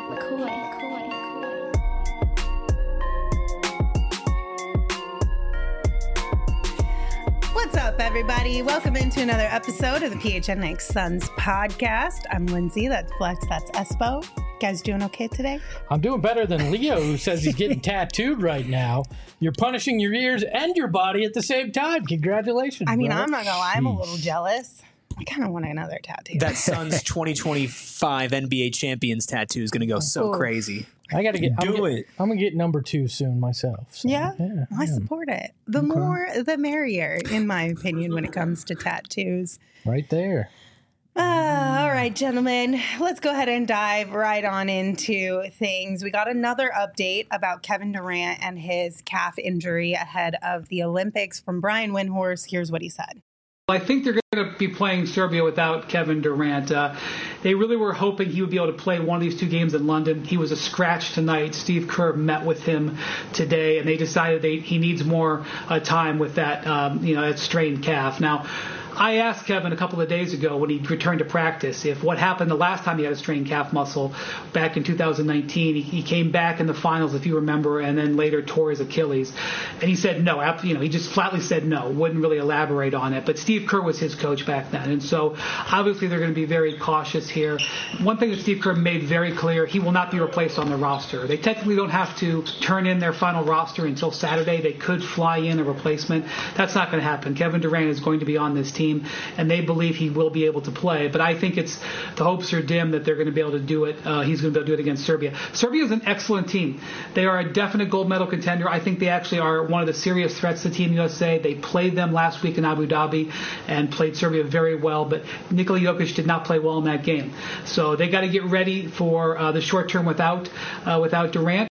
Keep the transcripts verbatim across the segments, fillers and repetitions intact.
McCoy, McCoy, McCoy. What's up, everybody? Welcome into another episode of the P H N X Suns podcast. I'm Lindsay. That's Flex. That's Espo. You guys doing okay today? I'm doing better than Leo, who says he's getting tattooed right now. You're punishing your ears and your body at the same time. Congratulations. I mean, brother. I'm not gonna lie. I'm a little jealous. I kind of want another tattoo. That Suns twenty twenty-five N B A champions tattoo is going to go so Ooh. crazy. I got to get Do I'm it. Get, I'm gonna get number two soon myself. So, yeah? yeah, I yeah. support it. The more, the merrier, in my opinion, when it comes to tattoos. Right there. Uh, all right, gentlemen, let's go ahead and dive right on into things. We got another update about Kevin Durant and his calf injury ahead of the Olympics from Brian Windhorst. Here's what he said. I think they're going to be playing Serbia without Kevin Durant. Uh, they really were hoping he would be able to play one of these two games in London. He was a scratch tonight. Steve Kerr met with him today, and they decided they, he needs more uh, time with that, um, you know, that strained calf. Now, I asked Kevin a couple of days ago when he returned to practice if what happened the last time he had a strained calf muscle back in two thousand nineteen. He, he came back in the finals, if you remember, and then later tore his Achilles. And he said no. You know, he just flatly said no. Wouldn't really elaborate on it. But Steve Kerr was his coach back then, and so obviously they're going to be very cautious here. One thing that Steve Kerr made very clear: he will not be replaced on the roster. They technically don't have to turn in their final roster until Saturday. They could fly in a replacement. That's not going to happen. Kevin Durant is going to be on this team, and they believe he will be able to play. But I think it's the hopes are dim that they're going to be able to do it. Uh, he's going to be able to do it against Serbia. Serbia is an excellent team. They are a definite gold medal contender. I think they actually are one of the serious threats to Team U S A. They played them last week in Abu Dhabi and played Serbia very well, but Nikola Jokic did not play well in that game. So they got to get ready for uh, the short term without uh, without Durant.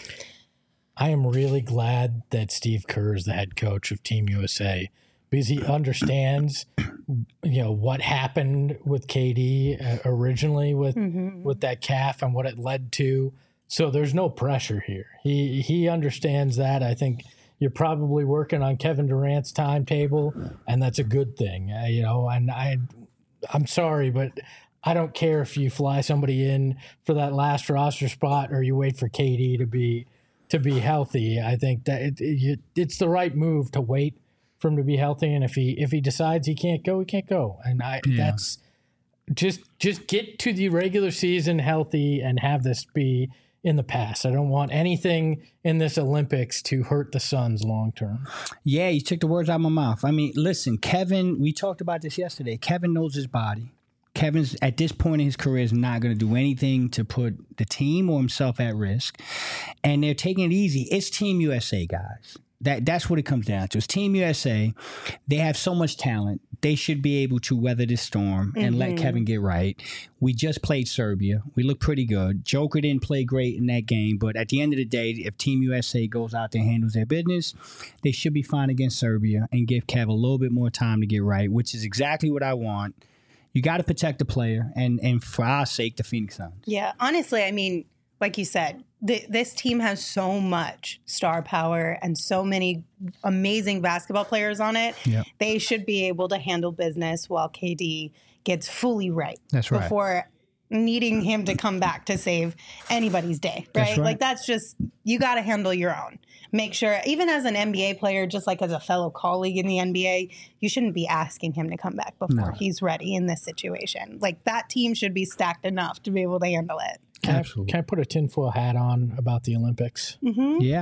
I am really glad that Steve Kerr is the head coach of Team U S A, because he understands, you know, what happened with K D uh, originally with mm-hmm. with that calf and what it led to. So there's no pressure here. He he understands that. I think you're probably working on Kevin Durant's timetable, and that's a good thing. Uh, you know, and I I'm sorry, but I don't care if you fly somebody in for that last roster spot or you wait for K D to be to be healthy. I think that it, it, it's the right move to wait for him to be healthy, and if he if he decides he can't go, he can't go. And I yeah. that's just just get to the regular season healthy and have this be in the past. I don't want anything in this Olympics to hurt the Suns long term. Yeah, you took the words out of my mouth. I mean, listen, Kevin, we talked about this yesterday. Kevin knows his body. Kevin's at this point in his career is not going to do anything to put the team or himself at risk. And they're taking it easy. It's Team U S A, guys. That That's what it comes down to. It's Team U S A. They have so much talent. They should be able to weather this storm and mm-hmm. let Kevin get right. We just played Serbia. We look pretty good. Joker didn't play great in that game, but at the end of the day, if Team U S A goes out there and handles their business, they should be fine against Serbia and give Kev a little bit more time to get right, which is exactly what I want. You got to protect the player, and, and for our sake, the Phoenix Suns. Yeah, honestly, I mean, like you said, th- this team has so much star power and so many amazing basketball players on it. Yep. They should be able to handle business while K D gets fully right. That's right. Before needing him to come back to save anybody's day, right? That's right. Like, that's just, you got to handle your own. Make sure, even as an N B A player, just like as a fellow colleague in the N B A, you shouldn't be asking him to come back before no. he's ready in this situation. Like, that team should be stacked enough to be able to handle it. Can Absolutely. I, can I put a tinfoil hat on about the Olympics? Mm-hmm. Yeah.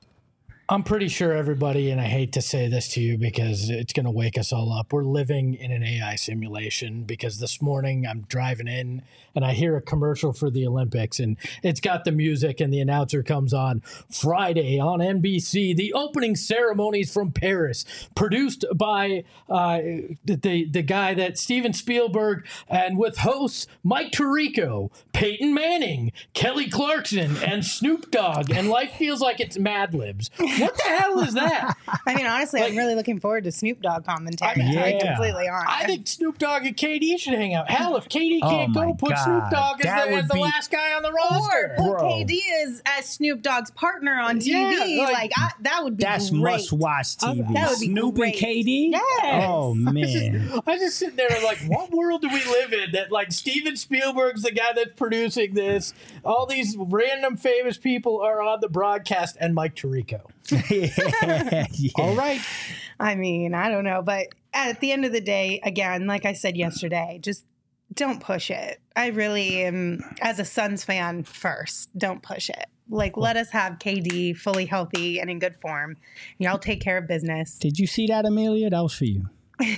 I'm pretty sure everybody, and I hate to say this to you because it's going to wake us all up, we're living in an A I simulation, because this morning I'm driving in and I hear a commercial for the Olympics, and it's got the music and the announcer comes on. Friday on N B C, the opening ceremonies from Paris, produced by uh, the, the guy that Steven Spielberg, and with hosts Mike Tirico, Peyton Manning, Kelly Clarkson, and Snoop Dogg, and life feels like it's Mad Libs. What the hell is that? I mean, honestly, Like- I'm really looking forward to Snoop Dogg commentary. To be Yeah. completely honest. I think Snoop Dogg and K D should hang out. Hell, if K D Oh can't my go, put God. Snoop Dogg as That the, would as the be- last guy on the or roster. put Bro. K D as, as Snoop Dogg's partner on T V. Yeah, like like, I, that would be That's great. must watch T V. That would be Snoop great. and K D? Yes. Oh, man. I just sit there and like, what world do we live in that like Steven Spielberg's the guy that's producing this? All these random famous people are on the broadcast, and Mike Tirico. yeah, yeah. All right, I mean, I don't know, but at the end of the day, again, like I said yesterday, just don't push it. I really am, as a Suns fan, first, don't push it. Like, let us have K D fully healthy and in good form. Y'all take care of business. Did you see that, Amelia? That was for you.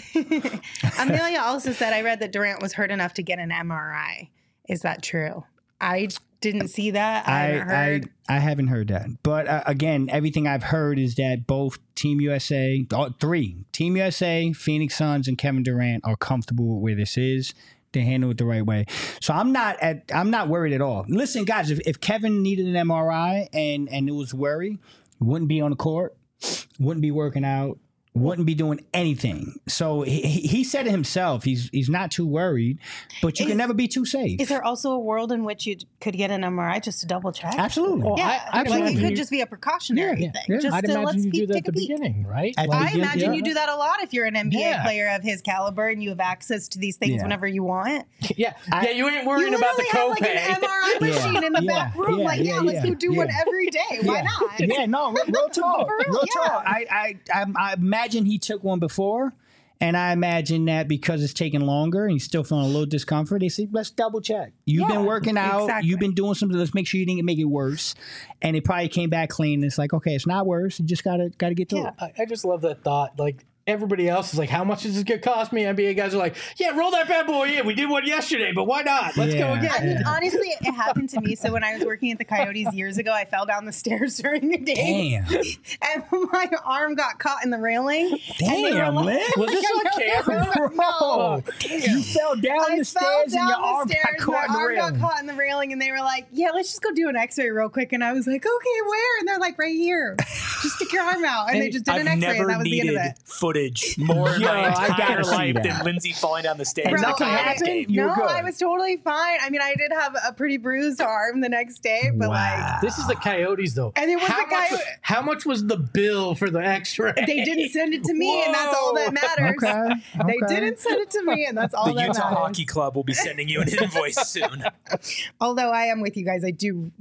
Amelia also said, I read that Durant was hurt enough to get an M R I. Is that true? I didn't see that. I, I haven't heard. I, I haven't heard that. But uh, again, everything I've heard is that both Team U S A, all, three, Team U S A, Phoenix Suns, and Kevin Durant are comfortable with where this is. They handle it the right way. So I'm not at I'm not worried at all. Listen, guys, if, if Kevin needed an M R I and, and it was worry, wouldn't be on the court, wouldn't be working out, wouldn't be doing anything. So he, he said it himself. He's he's not too worried, but you Is- can never be too safe. Is there also a world in which you could get an M R I just to double check? Absolutely. Well, Yeah, I- I like it imagine could you- just be a precautionary Yeah, thing. yeah. Just I'd to imagine let's you do peek, that take at the a peek. beginning, right? At the I beginning, imagine yeah. you do that a lot if you're an N B A Yeah. player of his caliber and you have access to these things Yeah. whenever you want. Yeah, I- yeah. You ain't You worrying about the literally have copay. like an M R I Yeah. machine in the Yeah. back room. Yeah. Like, yeah, Yeah. let's Yeah. go do one Yeah. every day. Why yeah. not? Yeah, no, real, real talk. For real, real yeah. talk. I, I, I, I imagine he took one before, and I imagine that because it's taking longer and he's still feeling a little discomfort, they say, let's double check. You've Yeah, been working out. exactly. You've been doing something. Let's make sure you didn't make it worse. And it probably came back clean. It's like, okay, it's not worse. You just gotta gotta get through Yeah, it. I, I just love that thought. Like everybody else is like, how much is this gonna cost me? N B A guys are like, yeah, roll that bad boy in. We did one yesterday, but why not? Let's go Yeah. again. I mean, honestly, it happened to me. So when I was working at the Coyotes years ago, I fell down the stairs during the day, Damn. and my arm got caught in the railing. And they were Damn, like- Lynn. Was this on camera? Bro, you fell down I the fell stairs and down your the arm stairs, got caught in my the arm got railing. caught in the railing, and they were like, "Yeah, let's just go do an X-ray real quick." And I was like, "Okay, where?" And they're like, "Right here. Just stick your arm out." And they just did I've an X-ray, never and that was the end needed of it. footage more in Yo, my I entire gotta see life that. than Lindsay falling down the stairs. And at the nothing Coyotes happened? game. You were no, good. I was totally fine. I mean, I did have a pretty bruised arm the next day, but Wow. This is the Coyotes, though. And it was how the guy much, who- How much was the bill for the X-ray? like they didn't send it to me, and that's all that matters. Okay. They okay. didn't send it to me, and that's all The that Utah matters. Hockey Club will be sending you an invoice soon. Although I am with you guys, I do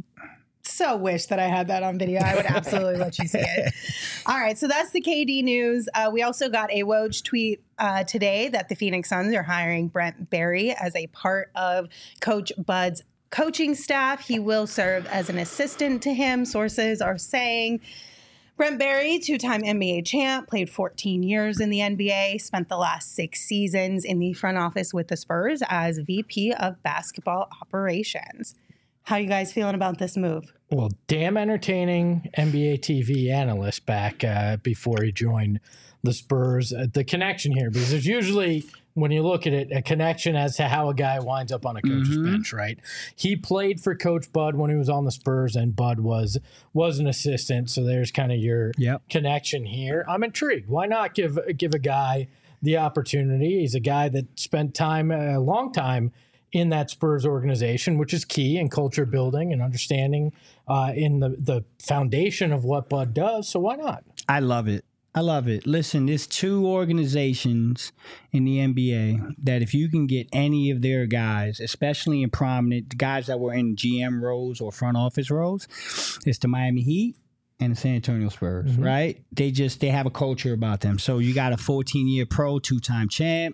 so wish that I had that on video. I would absolutely let you see it. All right, so that's the K D news. Uh, we also got a Woj tweet uh, today that the Phoenix Suns are hiring Brent Barry as a part of Coach Bud's coaching staff. He will serve as an assistant to him, sources are saying. Brent Barry, two-time N B A champ, played fourteen years in the N B A, spent the last six seasons in the front office with the Spurs as V P of basketball operations. How you guys feeling about this move? Well, damn entertaining N B A T V analyst back uh, before he joined the Spurs. Uh, the connection here, because there's usually, when you look at it, a connection as to how a guy winds up on a coach's Mhm. bench, right? He played for Coach Bud when he was on the Spurs, and Bud was was an assistant. So there's kind of your Yep. connection here. I'm intrigued. Why not give give a guy the opportunity? He's a guy that spent time, a long time, in that Spurs organization, which is key in culture building and understanding uh, in the, the foundation of what Bud does. So why not? I love it. I love it. Listen, there's two organizations in the N B A that if you can get any of their guys, especially in prominent guys that were in G M roles or front office roles, it's the Miami Heat and the San Antonio Spurs, Mhm. right? They just, they have a culture about them. So you got a fourteen-year pro, two-time champ,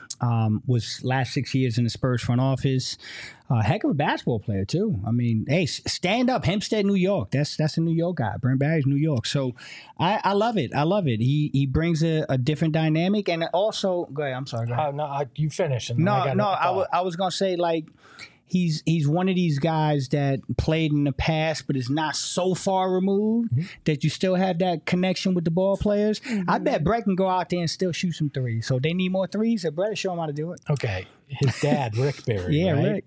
um, was last six years in the Spurs front office. Uh, heck of a basketball player too. I mean, hey, s- stand up, Hempstead, New York. That's that's a New York guy. Brent Barry's New York. So I, I love it. I love it. He he brings a, a different dynamic, and also, go ahead. I'm sorry. Go ahead. Uh, no, I, you finish. And then I No, got no. a I wa- thought. I was gonna say like. He's he's one of these guys that played in the past, but is not so far removed Mm-hmm. that you still have that connection with the ball players. I bet Brett can go out there and still shoot some threes. So if they need more threes, so Brett will show him how to do it. Okay, his dad, Rick Barry. Yeah, right? Rick. Yeah.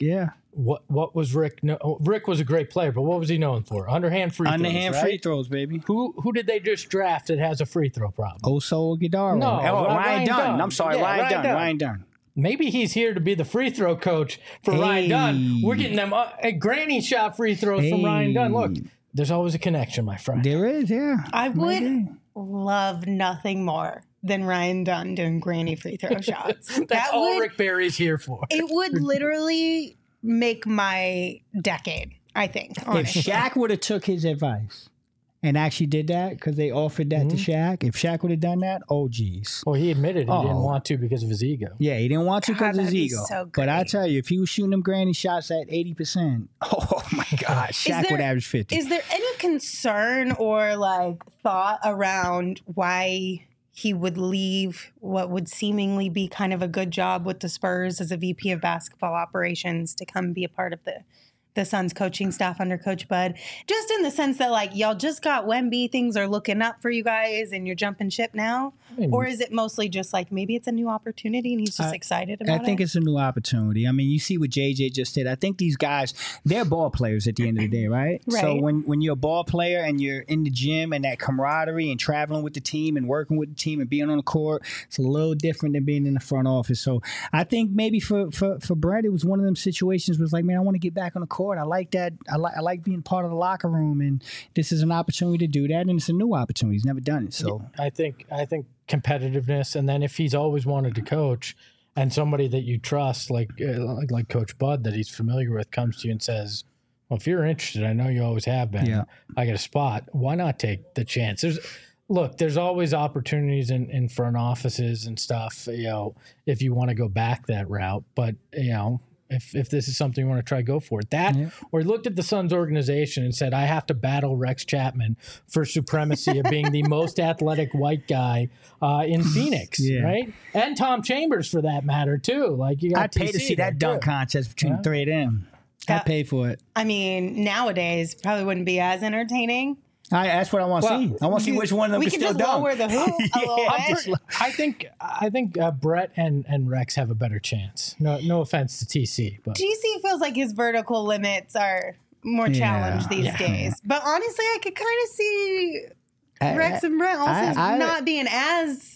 what what was Rick? No, Rick was a great player, but what was he known for? Underhand free Underhand throws, free right? throws, baby. Who who did they just draft that has a free throw problem? Oso Guidaro. No, oh, Ryan Ryan Dunn. Dunn. I'm sorry, Yeah, Ryan, Ryan Dunn. Dunn. Ryan Dunn. Maybe he's here to be the free throw coach for Ryan Hey. Dunn. We're getting them uh, a granny shot free throws from Ryan Dunn. Look, there's always a connection, my friend. There is, yeah. I would Maybe. love nothing more than Ryan Dunn doing granny free throw shots. That's that all would, Rick Barry's here for. It would literally make my decade, I think. If honestly. Shaq would have took his advice and actually did that because they offered that to Shaq, if Shaq would have done that, oh geez. Well, he admitted he didn't Oh. want to because of his ego. Yeah, he didn't want to God, because of his that'd be ego. so but I great. tell you, if he was shooting them granny shots at eighty percent, oh my God, Shaq there- would average fifty. Is there any concern or like thought around why he would leave what would seemingly be kind of a good job with the Spurs as a V P of basketball operations to come be a part of the the Suns coaching staff under Coach Bud? Just in the sense that like y'all just got Wemby, things are looking up for you guys and you're jumping ship now? mean- Or is it mostly just like maybe it's a new opportunity and he's just I- excited I about think it? it's a new opportunity. I mean, you see what J J just did. I think these guys, they're ball players at the end of the day, right? So Right. when, when you're a ball player and you're in the gym and that camaraderie and traveling with the team and working with the team and being on the court, it's a little different than being in the front office. So I think maybe for for, for Brett, it was one of them situations where it's like, man, I want to get back on the court. I like that. I like I like being part of the locker room, and this is an opportunity to do that, and it's a new opportunity. He's never done it, so. I think I think competitiveness, and then if he's always wanted to coach, and somebody that you trust, like uh, like, like Coach Bud, that he's familiar with, comes to you and says, "Well, if you're interested, I know you always have been. Yeah. I got a spot. Why not take the chance?" There's look, there's always opportunities in, in front offices and stuff. You know, if you want to go back that route, but you know. If, if this is something you want to try, go for it. That, Yeah. or he looked at the Suns organization and said, I have to battle Rex Chapman for supremacy of being the most athletic white guy uh, in Phoenix, Yeah. right? And Tom Chambers, for that matter, too. Like you got I'd pay to T C see that there, dunk too. contest between Yeah. the three of them. Yeah. I'd pay for it. I mean, nowadays probably wouldn't be as entertaining. I, that's what I want to Well, see. I want to see which one of them we can can still just dunk. lower the hoop a little Yeah. bit. I think I think uh, Brett and, and Rex have a better chance. No no offense to T C, but G C feels like his vertical limits are more Yeah. challenged these Yeah. days. But honestly, I could kind of see I- Rex and Brent also I- I- not being as.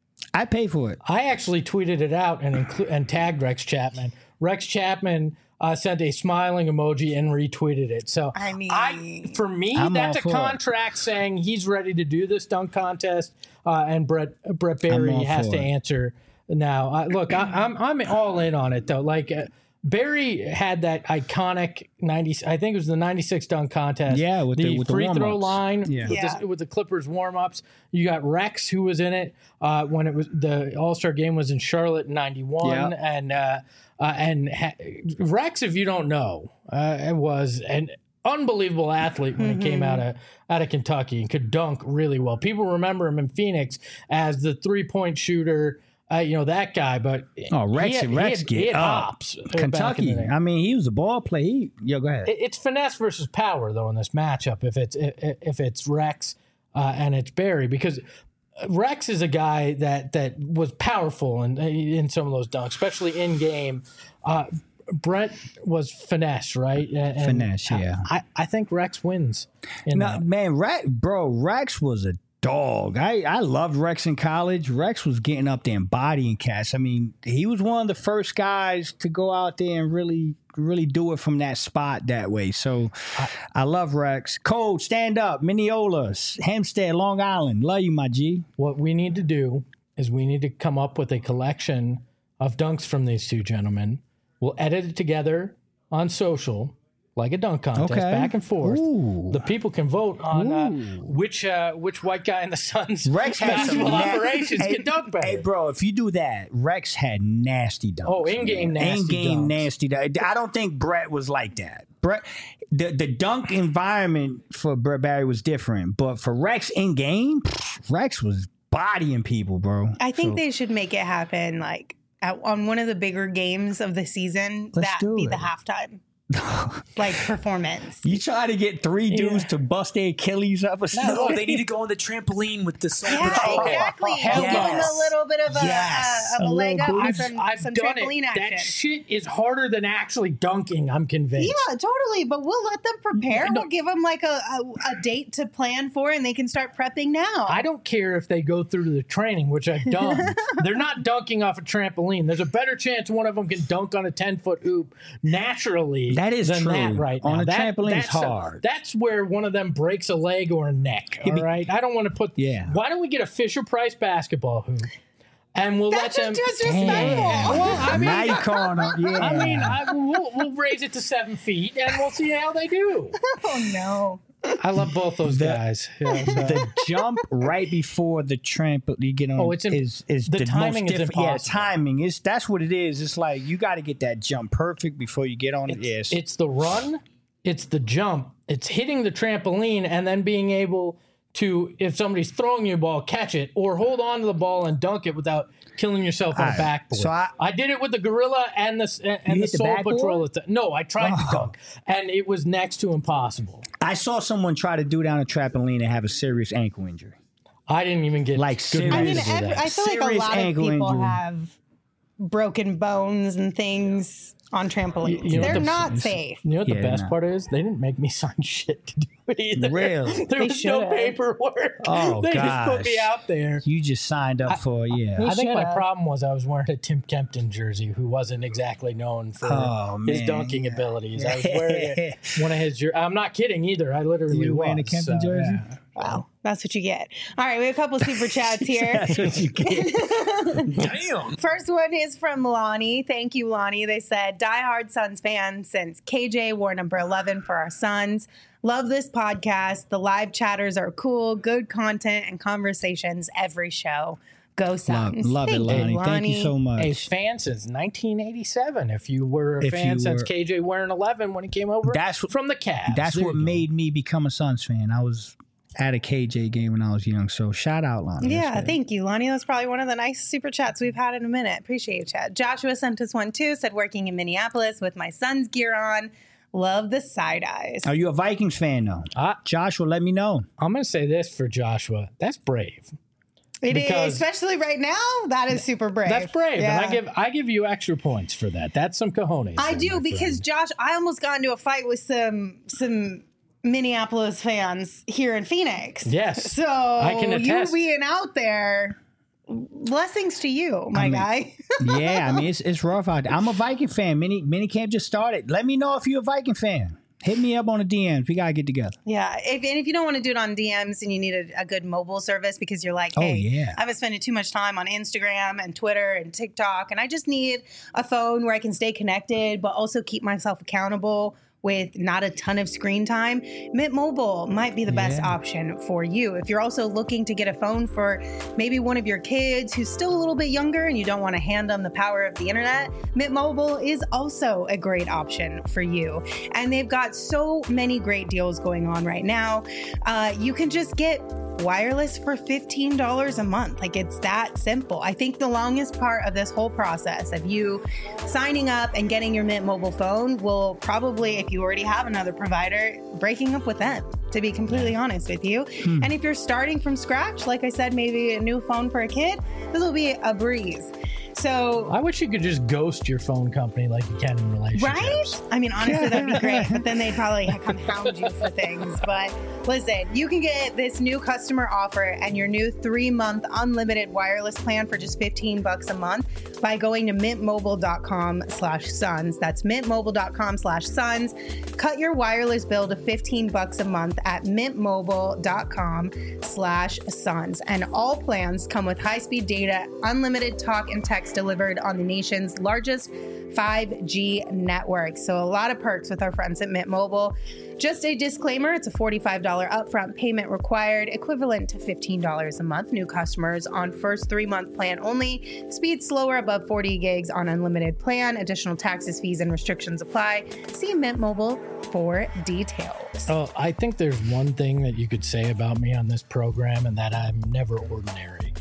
I pay for it. I actually tweeted it out and inclu- and tagged Rex Chapman. Rex Chapman uh, sent a smiling emoji and retweeted it. So I mean- I, for me, I'm that's all a for it. contract saying he's ready to do this dunk contest, uh, and Brett Brett Barry all has for to it. answer now. I, look, I, I'm I'm all in on it though. Like. Uh, Barry had that iconic ninety. I think it was the ninety-six dunk contest. Yeah, with the- with the free throw warm-ups. line. Yeah. With, Yeah. The, with the Clippers warm ups. You got Rex, who was in it uh, when it was the All Star game was in Charlotte in ninety-one, Yeah. and uh, uh, and ha- Rex, if you don't know, uh, was an unbelievable athlete when he came out of out of Kentucky and could dunk really well. People remember him in Phoenix as the three point shooter. Uh, you know that guy, but Oh, Rex, he had, Rex he had, get he had up. hops. uh, back in the Kentucky. day. I mean, he was a ball player. He, yo, go ahead. It- It's finesse versus power, though, in this matchup. If it's if if it's Rex uh, and it's Barry, because Rex is a guy that that was powerful in in some of those dunks, especially in game. Uh, Brent was finesse, right? And- and Finesse, yeah. I, I think Rex wins. In No, that. man, Rex, bro, Rex was a dog. I, I loved Rex in college. Rex was getting up there and bodying cats. I mean, he was one of the first guys to go out there and really, really do it from that spot that way. So I, I love Rex. Cole, stand up. Mineola, Hempstead, Long Island. Love you, my G. What we need to do is we need to come up with a collection of dunks from these two gentlemen. We'll edit it together on social, like a dunk contest, Okay. back and forth. Ooh. The people can vote on uh, Ooh. which uh, which white guy in the Suns Rex had some basketball na- operations hey, can dunk better. Hey, bro, if you do that, Rex had nasty dunks. Oh, in-game nasty In-game dunks. nasty dunks. I don't think Brett was like that. Brett, the, the dunk environment for Brett Barry was different, but for Rex in-game, Rex was bodying people, bro. I think So, they should make it happen like at, on one of the bigger games of the season. Let's That do be it. the halftime. like performance. You try to get three dudes Yeah. to bust their Achilles up or something? No, they need to go on the trampoline with the soul Yeah, patrol. exactly. Hell Give them yes. a little bit of a, Yes. uh, of a, A leg up little and boost. some, I've some done trampoline it. action. That shit is harder than actually dunking. I'm convinced. Yeah, totally. But we'll let them prepare. No. We'll give them like a, a, a date to plan for, and they can start prepping now. I don't care if they go through the training, which I've done. They're not dunking off a trampoline. There's a better chance one of them can dunk on a ten foot hoop naturally. That is than true. That right On now. a That- trampoline, it's that's a- hard. that's where one of them breaks a leg or a neck. All be- right. I don't want to put. Yeah. Why don't we get a Fisher Price basketball hoop, and we'll That's let them. just disrespectful. Well, I mean, now you calling them. Yeah. I mean, I, we'll, we'll raise it to seven feet, and we'll see how they do. Oh, no. I love both those The- guys. Yeah, so- the jump right before the trampoline you get on Oh, it's imp- is is the the, timing most is difficult. Yeah, impossible. timing is that's what it is. It's like you got to get that jump perfect before you get on it. It's, Yes, it's the run, it's the jump, it's hitting the trampoline, and then being able to, if somebody's throwing you a ball, catch it or hold on to the ball and dunk it without killing yourself on All a right, backboard. so I- did it with the Gorilla and the and You the hit the Soul backboard? Patrol. at the- No, I tried to Oh. dunk, and it was next to impossible. I saw someone try to do down a trampoline and have a serious ankle injury. I didn't even get Like good serious- I mean, reason to do every, that. I feel like a Serious lot of ankle people injury. have broken bones and things on trampolines. You know what They're the- not safe. You know what the Yeah, best no. part is? They didn't make me sign shit to do it either. Really? There They was no should've. paperwork. Oh, they just put me gosh. out there. You just signed up for yeah. I think my should've. problem was I was wearing a Tim Kempton jersey, who wasn't exactly known for Oh, his man. dunking abilities. I was wearing it, one of his. jer- I'm not kidding either. I literally You was. wearing a Kempton so, jersey? yeah. Wow. That's what you get. All right, we have a couple super chats here. That's what you get. Damn. First one is from Lonnie. Thank you, Lonnie. They said, diehard Suns fan since K J wore number eleven for our Suns. Love this podcast. The live chatters are cool, good content and conversations every show. Go love, Suns. love it, Thank you, Lonnie. Thank you so much. A fan since nineteen eighty-seven. If you were a If fan you since were- K J wearing eleven when he came over That's what- from the Cavs. That's There what you go. made me become a Suns fan. I was at a K J game when I was young. So shout out, Lonnie. That's Yeah, great. thank you, Lonnie. That's probably one of the nice super chats we've had in a minute. Appreciate you, chat. Joshua sent us one too. Said working in Minneapolis with my son's gear on. Love the side eyes. Are you a Vikings fan though? Uh, Joshua, let me know. I'm going to say this for Joshua. That's brave. It is, because- especially right now. That is super brave. That's brave, Yeah. and I give I give you extra points for that. That's some cojones. I there, do my because friend. Josh, I almost got into a fight with some some Minneapolis fans here in Phoenix. Yes, So I can you attest. being out there, blessings to you, my I mean- guy. Yeah, I mean it's it's rough out there. I'm a Viking fan. Mini mini camp just started. Let me know if you're a Viking fan. Hit me up on the D Ms. We gotta get together. Yeah, if, and if you don't want to do it on D Ms and you need a, a good mobile service because you're like, Oh, hey, yeah. I've been spending too much time on Instagram and Twitter and TikTok, and I just need a phone where I can stay connected but also keep myself accountable with not a ton of screen time, Mint Mobile might be the best Yeah. option for you. If you're also looking to get a phone for maybe one of your kids who's still a little bit younger and you don't want to hand them the power of the internet, Mint Mobile is also a great option for you. And they've got so many great deals going on right now. Uh, you can just get wireless for fifteen dollars a month. Like, it's that simple. I think the longest part of this whole process of you signing up and getting your Mint Mobile phone will probably, if you already have another provider, breaking up with them, to be completely honest with you. Hmm. And if you're starting from scratch, like I said, maybe a new phone for a kid, this will be a breeze. So, I wish you could just ghost your phone company like you can in relationships. right? I mean, honestly, that'd be great. But then they'd probably come hound you for things. But listen, you can get this new customer offer and your new three-month unlimited wireless plan for just fifteen bucks a month by going to mintmobile.com slash sons. That's mintmobile.com slash sons. Cut your wireless bill to fifteen bucks a month at mintmobile.com slash sons. And all plans come with high-speed data, unlimited talk and text delivered on the nation's largest five G network. So a lot of perks with our friends at Mint Mobile. Just a disclaimer, it's a forty-five dollars upfront payment required, equivalent to fifteen dollars a month. New customers on first three-month plan only. Speed slower above forty gigs on unlimited plan. Additional taxes, fees, and restrictions apply. See Mint Mobile for details. Oh, I think there's one thing that you could say about me on this program, and that I'm never ordinary.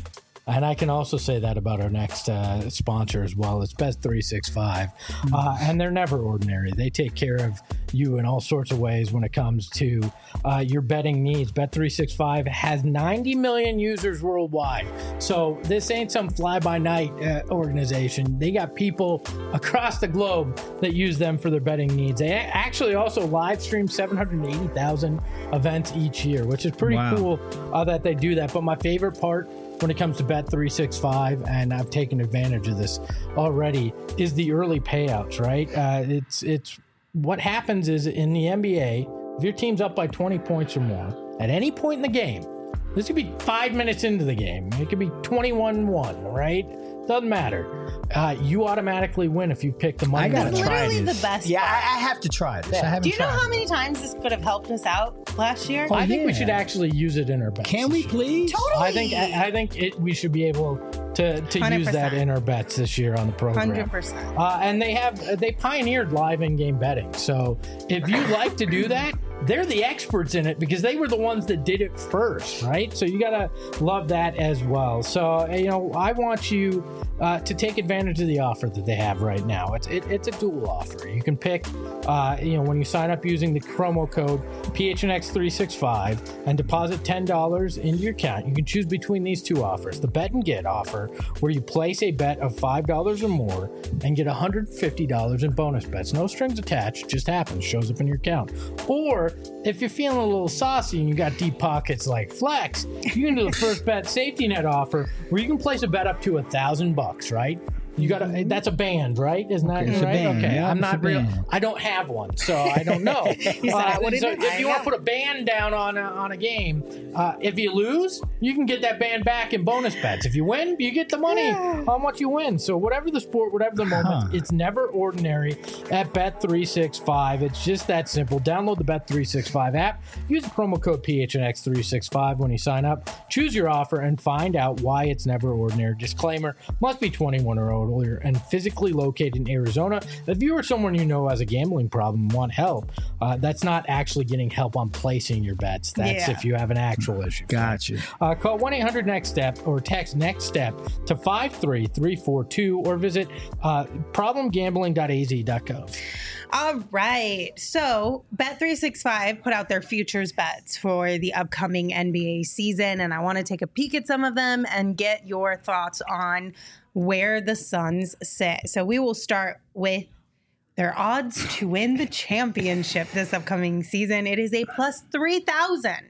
And I can also say that about our next uh, sponsor as well. It's Bet three sixty-five. Uh, and they're never ordinary. They take care of you in all sorts of ways when it comes to uh, your betting needs. Bet three sixty-five has ninety million users worldwide. So this ain't some fly-by-night uh, organization. They got people across the globe that use them for their betting needs. They actually also live stream seven hundred eighty thousand events each year, which is pretty Wow. cool uh, that they do that. But my favorite part when it comes to Bet three sixty-five, and I've taken advantage of this already, is the early payouts, right? Uh, it's it's what happens is in the N B A, if your team's up by twenty points or more, at any point in the game, this could be five minutes into the game, it could be twenty-one one, right? Doesn't matter. Uh, you automatically win if you pick the money. I gotta It's try literally this. the best Yeah, part. I, I have to try this. I haven't Do you know tried how it. many times this could have helped us out last year? I think we yeah. should actually use it in our bets. Can we please? Totally. I think I, I think it, we should be able to to use that one hundred percent. in our bets this year on the program. one hundred percent. Uh, and they have they pioneered live in-game betting. So if you like to do that, they're the experts in it because they were the ones that did it first, right? So you gotta love that as well. So you know, I want you uh, to take advantage of the offer that they have right now. It's it, it's a dual offer. You can pick, uh, you know, when you sign up using the promo code P H N X three sixty-five and deposit ten dollars into your account. You can choose between these two offers: the bet and get offer, where you place a bet of five dollars or more and get one hundred fifty dollars in bonus bets. No strings attached, just happens, shows up in your account. Or if you're feeling a little saucy and you got deep pockets like Flex, you can do the first bet safety net offer where you can place a bet up to a thousand bucks, right? You got to that's a band, right? Isn't that Okay, it's a right? band, Okay, yeah, I'm it's a not real. band. I don't have one, so I don't know. Uh, what so it is. if you I want to know. put a band down on a, on a game, uh, if you lose, you can get that band back in bonus bets. If you win, you get the money on what you win. So whatever the sport, whatever the moment, Huh. it's never ordinary at Bet three sixty-five. It's just that simple. Download the Bet three sixty-five app. Use the promo code P H N X three sixty-five when you sign up. Choose your offer and find out why it's never ordinary. Disclaimer: must be twenty-one or older and physically located in Arizona. If you or someone you know has a gambling problem and want help, uh, that's not actually getting help on placing your bets. That's Yeah. if you have an actual issue. Gotcha. Uh, call one eight hundred next step or text next step to five three three four two or visit uh, problem gambling dot a z dot gov. All right. So, Bet three sixty-five put out their futures bets for the upcoming N B A season, and I want to take a peek at some of them and get your thoughts on where the Suns sit. So, we will start with their odds to win the championship this upcoming season. It is a plus three thousand.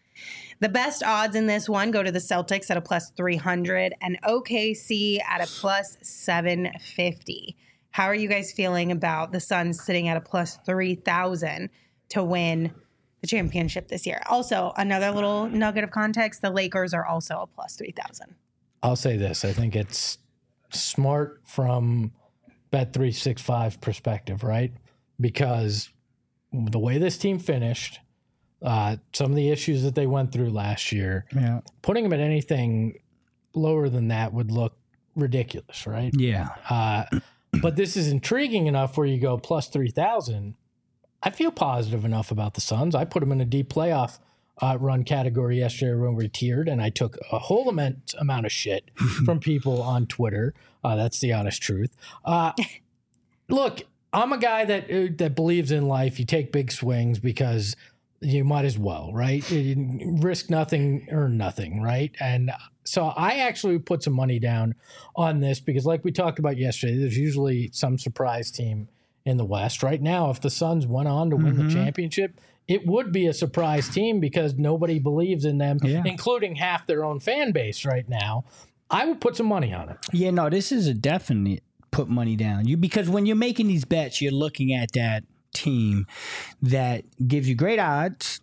The best odds in this one go to the Celtics at a plus three hundred and O K C at a plus seven fifty. How are you guys feeling about the Suns sitting at a plus three thousand to win the championship this year? Also, another little nugget of context, the Lakers are also a plus three thousand. I'll say this. I think it's smart from Bet three sixty-five perspective, right? Because the way this team finished, uh, some of the issues that they went through last year, Yeah. putting them at anything lower than that would look ridiculous, right? Yeah. Uh, but this is intriguing enough where you go plus three thousand. I feel positive enough about the Suns. I put them in a deep playoff uh, run category yesterday when we tiered, and I took a whole immense amount of shit from people on Twitter. Uh, that's the honest truth. Uh, look, I'm a guy that uh, that believes in life. You take big swings because you might as well, right? You risk nothing, earn nothing, right? And so I actually put some money down on this because, like we talked about yesterday, there's usually some surprise team in the West. Right now, if the Suns went on to win Mm-hmm. the championship, it would be a surprise team because nobody believes in them, Yeah. including half their own fan base right now. I would put some money on it. Yeah, no, this is a definite put money down. You because when you're making these bets, you're looking at that team that gives you great odds,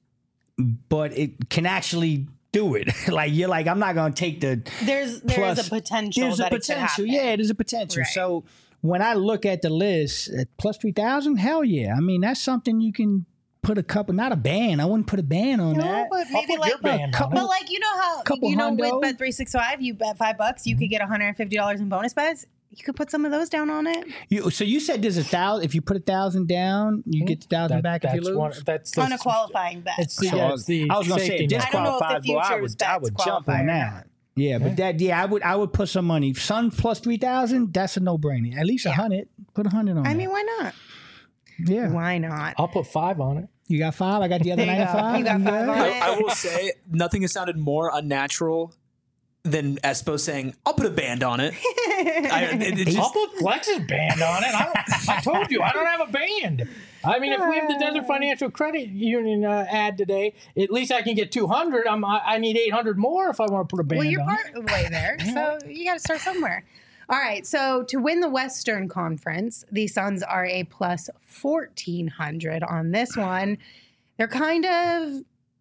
but it can actually do it. Like you're like, I'm not going to take the There's there's plus- a potential There's that a it could potential. happen. Yeah, there's a potential. Right. So when I look at the list at plus three thousand, hell yeah. I mean, that's something you can put a couple, not a band. I wouldn't put a band on No, that. but maybe put like your band on but it. like you know how Couple you know hundo. with Bet three sixty-five, you bet five bucks, you could get one hundred fifty dollars in bonus bets. You could put some of those down on it. You, so you said there's a thousand. If you put a thousand down, you get the thousand That- back if you that's lose. one. That's the, On a qualifying bet. It's the, So yeah, it's the I was going to say safety if net. I don't know if the disqualified, boy, I futures would, I bets would jump qualify on or that. Yeah, but that yeah, I would I would put some money. Suns plus three thousand. That's a no brainer. At least a hundred. Put a hundred on. I that. mean, why not? yeah. Why not? I'll put five on it. You got five. I got the other There you go. ninety-five. You got five on I, it. I will say nothing has sounded more unnatural than Espo saying, "I'll put a band on it." I, it, it I'll just, put Flex's band on it. I, don't, I told you, I don't have a band. I mean, if we have the Desert Financial Credit Union uh, ad today, at least I can get two hundred. I'm, I, I need eight hundred more if I want to put a band Well, you're on part of the way there, so you got to start somewhere. All right, so to win the Western Conference, the Suns are a plus fourteen hundred on this one. They're kind of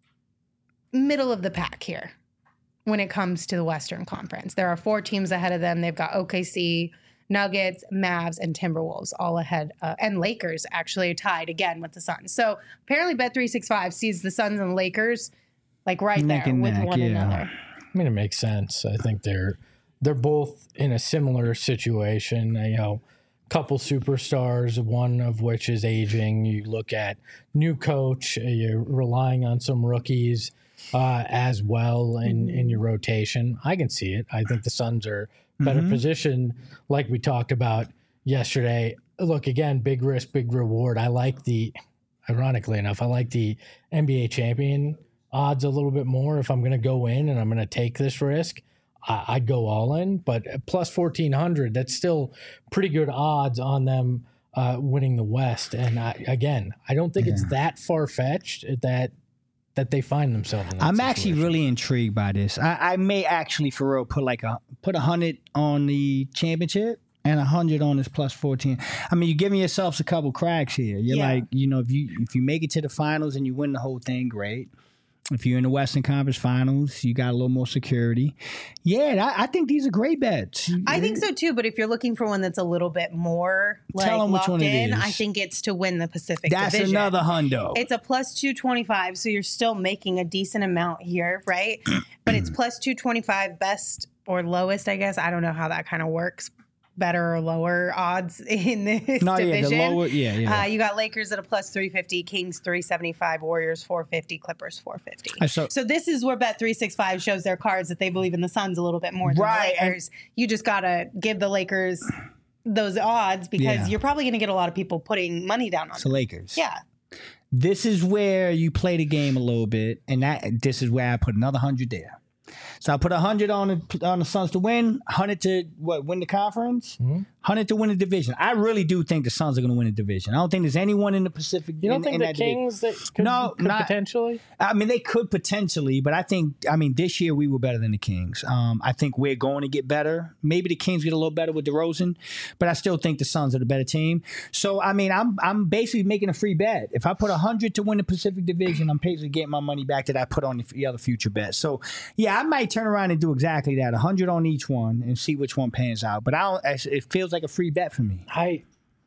middle of the pack here when it comes to the Western Conference. There are four teams ahead of them. They've got O K C, Nuggets, Mavs, and Timberwolves all ahead, uh, and Lakers actually tied again with the Suns. So apparently Bet three sixty-five sees the Suns and Lakers like right Neck there and with neck, one yeah. another. I mean, it makes sense. I think they're they're both in a similar situation. You know, couple superstars, one of which is aging. You look at new coach. You're relying on some rookies uh, as well in, in your rotation. I can see it. I think the Suns are better Mhm. positioned, like we talked about yesterday. Look, again, big risk, big reward. I like the, ironically enough, I like the N B A champion odds a little bit more. If I'm going to go in and I'm going to take this risk, I, I'd go all in. But at plus fourteen hundred, that's still pretty good odds on them uh, winning the West. And I, again, I don't think it's that far fetched that that they find themselves in that I'm situation. actually really intrigued by this. I, I may actually for real put like a put a hundred on the championship and a hundred on this plus fourteen. I mean, you're giving yourselves a couple cracks here. You're Yeah. like, you know, if you if you make it to the finals and you win the whole thing, great. If you're in the Western Conference Finals, you got a little more security. Yeah, I, I think these are great bets. I think so too, but if you're looking for one that's a little bit more like Tell 'em which locked one it in, is. I think it's to win the Pacific That's Division. another hundo. It's a plus two twenty-five, so you're still making a decent amount here, right? But it's plus two twenty-five, best or lowest, I guess. I don't know how that kind of works. Better or lower odds in this no, yeah, division. the lower, yeah, yeah. Uh, you got Lakers at a plus three fifty, Kings three seventy-five, Warriors four fifty, Clippers four fifty. I saw- So this is where Bet three sixty-five shows their cards that they believe in the Suns a little bit more than Right, the and- Lakers. You just got to give the Lakers those odds because Yeah. you're probably going to get a lot of people putting money down on It's the them. Lakers. Yeah. This is where you play the game a little bit, and that this is where I put another hundred there. So I put a hundred on the on the Suns to win, hundred to what win the conference, Mm-hmm. hundred to win the division. I really do think the Suns are going to win the division. I don't think there's anyone in the Pacific. You don't in, think in the that division. Kings that could, No, could not- potentially? I mean, they could potentially, but I think, I mean, this year we were better than the Kings. Um, I think we're going to get better. Maybe the Kings get a little better with DeRozan, but I still think the Suns are the better team. So, I mean, I'm I'm basically making a free bet. If I put one hundred to win the Pacific Division, I'm basically getting my money back that I put on the, the other future bets. So, yeah, I might turn around and do exactly that, one hundred on each one and see which one pans out. But I don't, it feels like a free bet for me. I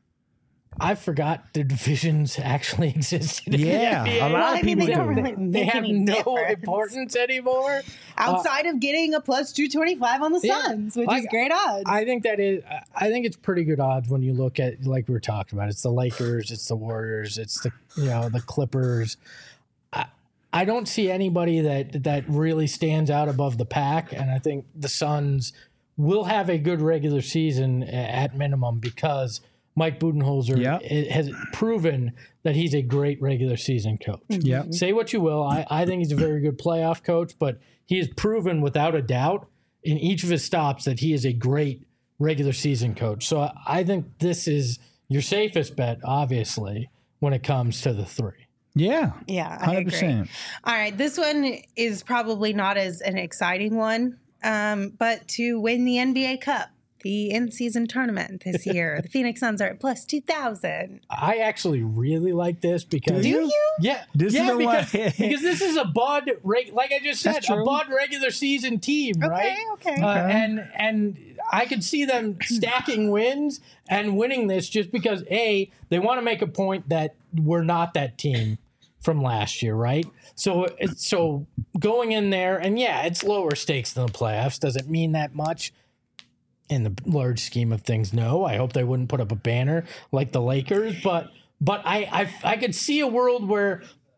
I forgot the divisions actually existed. in the Yeah, N B A. a lot Well, of I mean, people they do. don't really They make have any no difference. importance anymore. Outside of getting a plus two twenty-five on the Yeah. Suns, which Like, is great odds. I think that is. I think it's pretty good odds when you look at, like we were talking about. It's the Lakers, it's the Warriors, it's the you know the Clippers. I, I don't see anybody that that really stands out above the pack, and I think the Suns will have a good regular season a- at minimum because Mike Budenholzer Yep. i- has proven that he's a great regular season coach. Yep. Say what you will, I, I think he's a very good playoff coach, but he has proven without a doubt in each of his stops that he is a great regular season coach. So I, I think this is your safest bet, obviously, when it comes to the three. Yeah, yeah, I one hundred agree. percent. All right, this one is probably not as an exciting one, um, but to win the N B A Cup, the in-season tournament this year, the Phoenix Suns are at plus two thousand. I actually really like this because Do you? Yeah, This is yeah, the because, one- because this is a Bud, reg- like I just said, That's a true. Bud regular season team, right? okay. Uh, and and I could see them stacking wins and winning this just because a they want to make a point that we're not that team from last year, right? So it's so going in there, and yeah, it's lower stakes than the playoffs. Does it mean that much? In the large scheme of things, no. I hope they wouldn't put up a banner like the Lakers, but but I I, I could see a world where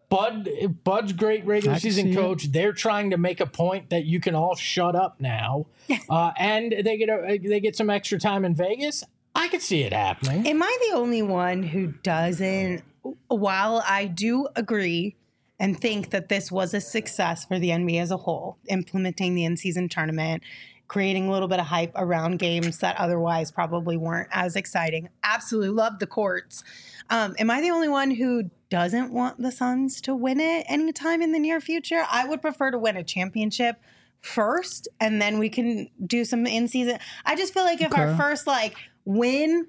Bud, Bud's great regular I can season see coach. They're trying to make a point that you can all shut up now, uh, and they get a, they get some extra time in Vegas. I could see it happening. Am I the only one who doesn't? While I do agree and think that this was a success for the N B A as a whole, implementing the in-season tournament, creating a little bit of hype around games that otherwise probably weren't as exciting. Absolutely love the courts. Um, am I the only one who doesn't want the Suns to win it anytime in the near future? I would prefer to win a championship first, and then we can do some in-season. I just feel like if Okay. our first like win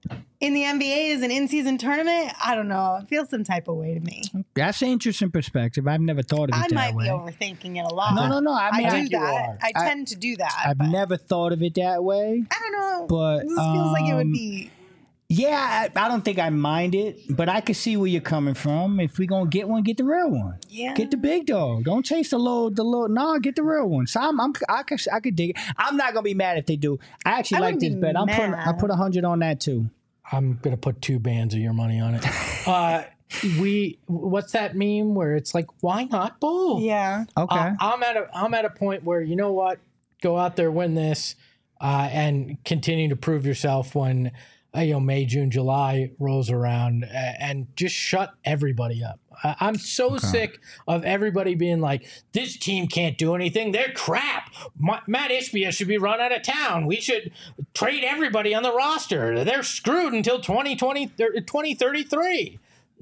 in the N B A is an in-season tournament, I don't know. It feels some type of way to me. That's an interesting perspective. I've never thought of it I that might way. be overthinking it a lot. No, no, no. I mean, I I, do think you that. are. I I- tend to do that. I've but never thought of it that way. I don't know. but, this feels like it would um, be. Yeah, I, I don't think I mind it, but I can see where you're coming from. If we gonna get one, get the real one. Yeah. Get the big dog. Don't chase the little, the little. No, get the real one. So I'm, I'm I could, I could dig it. I'm not gonna be mad if they do. I actually I like wouldn't this be bet. I'm putting, I mad. put a hundred on that too. I'm gonna put two bands of your money on it. Uh, we what's that meme where it's like, why not both? Yeah. Okay. Uh, I'm at a I'm at a point where, you know what, go out there, win this, uh, and continue to prove yourself when uh, you know May, June, July rolls around, uh, and just shut everybody up. I, I'm so sick of everybody being like, this team can't do anything. They're crap. Ma- Matt Ishbia should be run out of town. We should trade everybody on the roster. They're screwed until twenty twenty, twenty thirty-three.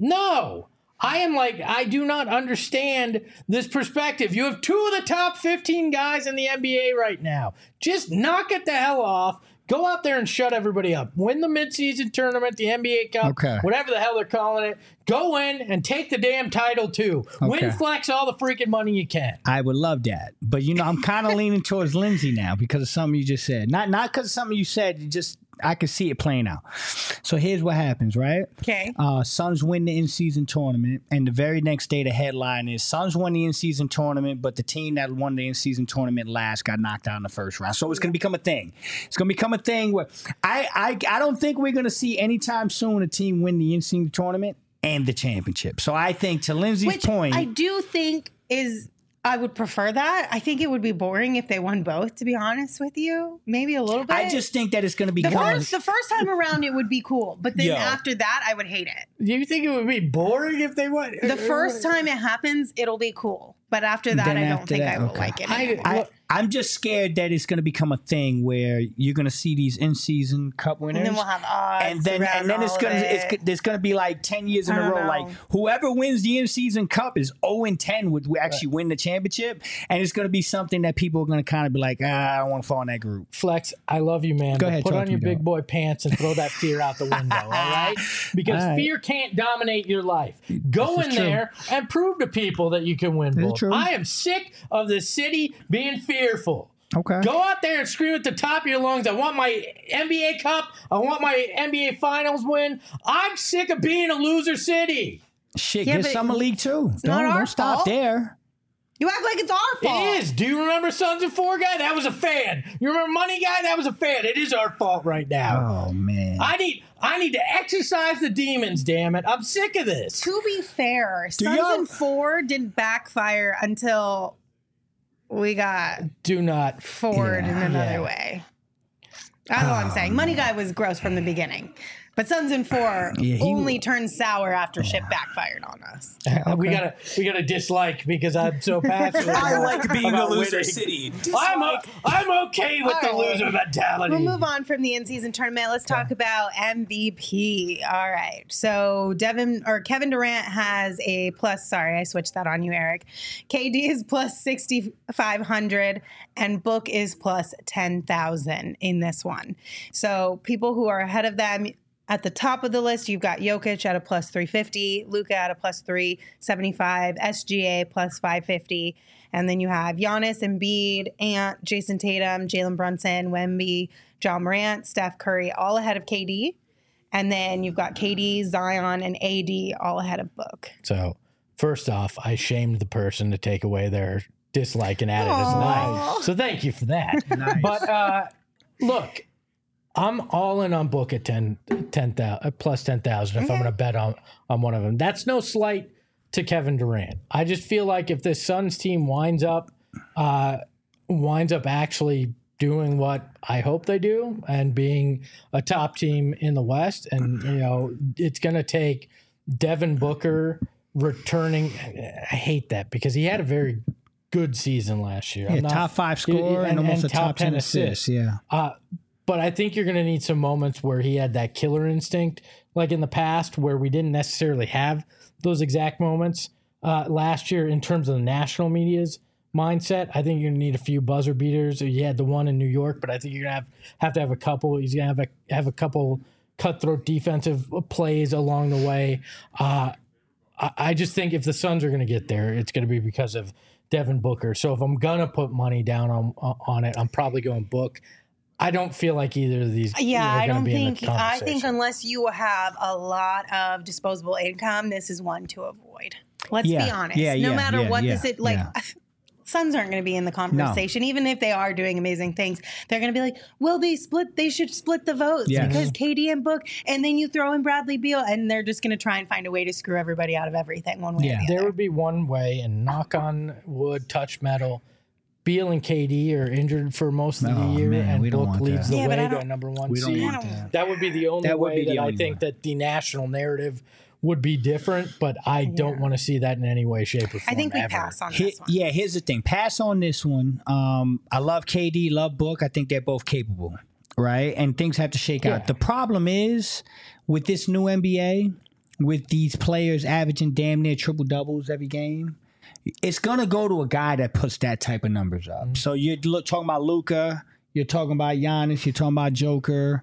No. I am like, I do not understand this perspective. You have two of the top fifteen guys in the N B A right now. Just knock it the hell off. Go out there and shut everybody up. Win the midseason tournament, the N B A Cup, Okay. whatever the hell they're calling it. Go in and take the damn title too. Okay. Win flex all the freaking money you can. I would love that, but you know, I'm kind of leaning towards Lindsay now because of something you just said. Not, not because of something you said. You just, I could see it playing out. So here's what happens, right? Okay. Uh, Suns win the in-season tournament, and the very next day the headline is Suns won the in-season tournament, but the team that won the in-season tournament last got knocked out in the first round. So it's going to become a thing. It's going to become a thing where I, I, I don't think we're going to see anytime soon a team win the in-season tournament and the championship. So I think, to Lindsay's Which point, I do think is, I would prefer that. I think it would be boring if they won both, to be honest with you. Maybe a little bit. I just think that it's going to the become first, the first time around it would be cool, but then Yo. after that, I would hate it. Do you think it would be boring if they won? The first time it happens, it'll be cool, but after that, Then I don't after think that, I will okay. like it. I, anymore. I, look, I'm just scared that it's going to become a thing where you're going to see these in-season cup winners, and then we'll have odds, and then around and then it's all gonna of it's it. there's gonna be like ten years in I a don't row. know. Like whoever wins the in-season cup is zero and ten would actually win the championship, and it's gonna be something that people are gonna kind of be like, ah, I don't want to fall in that group. Flex, I love you, man. Go but ahead, put talk on to your me, big dog. boy pants and throw that fear out the window, all right? Because All right. fear can't dominate your life. Go This in is true. there and prove to people that you can win This is both. true. I am sick of the city being fearful. Okay. Go out there and scream at the top of your lungs. I want my N B A Cup. I want my N B A Finals win. I'm sick of being a loser city. Shit, Yeah, get but Summer League too. not Don't, our don't stop fault. there. You act like it's our fault. It is. Do you remember Sons of Four guy? That was a fan. You remember Money guy? That was a fan. It is our fault right now. Oh man. I need I need to exercise the demons, damn it. I'm sick of this. To be fair, Do Sons y'all- and Four didn't backfire until we got Do not. forward Yeah. in another Yeah. way. That's all I'm saying. Money Guy was gross from the beginning. But Sons and Four Yeah, he- only turned sour after shit backfired on us. We gotta we gotta dislike because I'm so passionate. I about- like being a about loser winning. city. I'm o- I'm okay with the All right. loser mentality. We'll move on from the in-season tournament. Let's talk about M V P. All right. So Devin or Kevin Durant has a plus. Sorry, I switched that on you, Eric. K D is plus sixty-five hundred and Book is plus ten thousand in this one. So people who are ahead of them. At the top of the list, you've got Jokic at a plus three fifty, Luka at a plus three seventy-five, S G A plus five fifty, and then you have Giannis, Embiid, Ant, Jason Tatum, Jalen Brunson, Wemby, John Morant, Steph Curry, all ahead of K D. And then you've got K D, Zion, and A D all ahead of Book. So first off, I shamed the person to take away their dislike and add it as Aw. nice. So thank you for that. But uh, look, I'm all in on Book at ten, ten thousand, plus ten thousand if I'm Okay. going to bet on, on one of them. That's no slight to Kevin Durant. I just feel like if this Suns team winds up uh, winds up actually doing what I hope they do and being a top team in the West, and you know, it's going to take Devin Booker returning. I hate that because he had a very good season last year. Yeah, I'm not- top five scorer and, and- almost and a top ten assists. Yeah. Uh, but I think you're going to need some moments where he had that killer instinct, like in the past, where we didn't necessarily have those exact moments uh, last year in terms of the national media's mindset. I think you're going to need a few buzzer beaters. You had the one in New York, but I think you're going to have have to have a couple. He's going to have a have a couple cutthroat defensive plays along the way. Uh, I, I just think if the Suns are going to get there, it's going to be because of Devin Booker. So if I'm going to put money down on on it, I'm probably going Book. I don't feel like either of these. Yeah, are I gonna don't be in the think. I think conversation. unless you have a lot of disposable income, this is one to avoid. Let's Yeah, be honest. yeah, no yeah, matter yeah, what yeah, this is, like, yeah. Suns aren't going to be in the conversation, even if they are doing amazing things. They're going to be like, "Well, they split. They should split the votes Yes. because K D and Book, and then you throw in Bradley Beal, and they're just going to try and find a way to screw everybody out of everything one way Yeah. or the There other." would be one way, and knock on wood, touch metal. Beal and K D are injured for most of Oh, the year, man, and we don't Book want leads that. the Yeah, but way I to don't- a number one We don't seed. want that. That would be the only That would way be the that I only think way. that the national narrative would be different, but I don't want to see that in any way, shape, or form. I think we ever. pass on He- this one. yeah, here's the thing. Pass on this one. Um, I love K D, love Book. I think they're both capable, right? And things have to shake Yeah. out. The problem is with this new N B A, with these players averaging damn near triple doubles every game, it's gonna go to a guy that puts that type of numbers up. Mm-hmm. So you're look, talking about Luka, you're talking about Giannis, you're talking about Joker.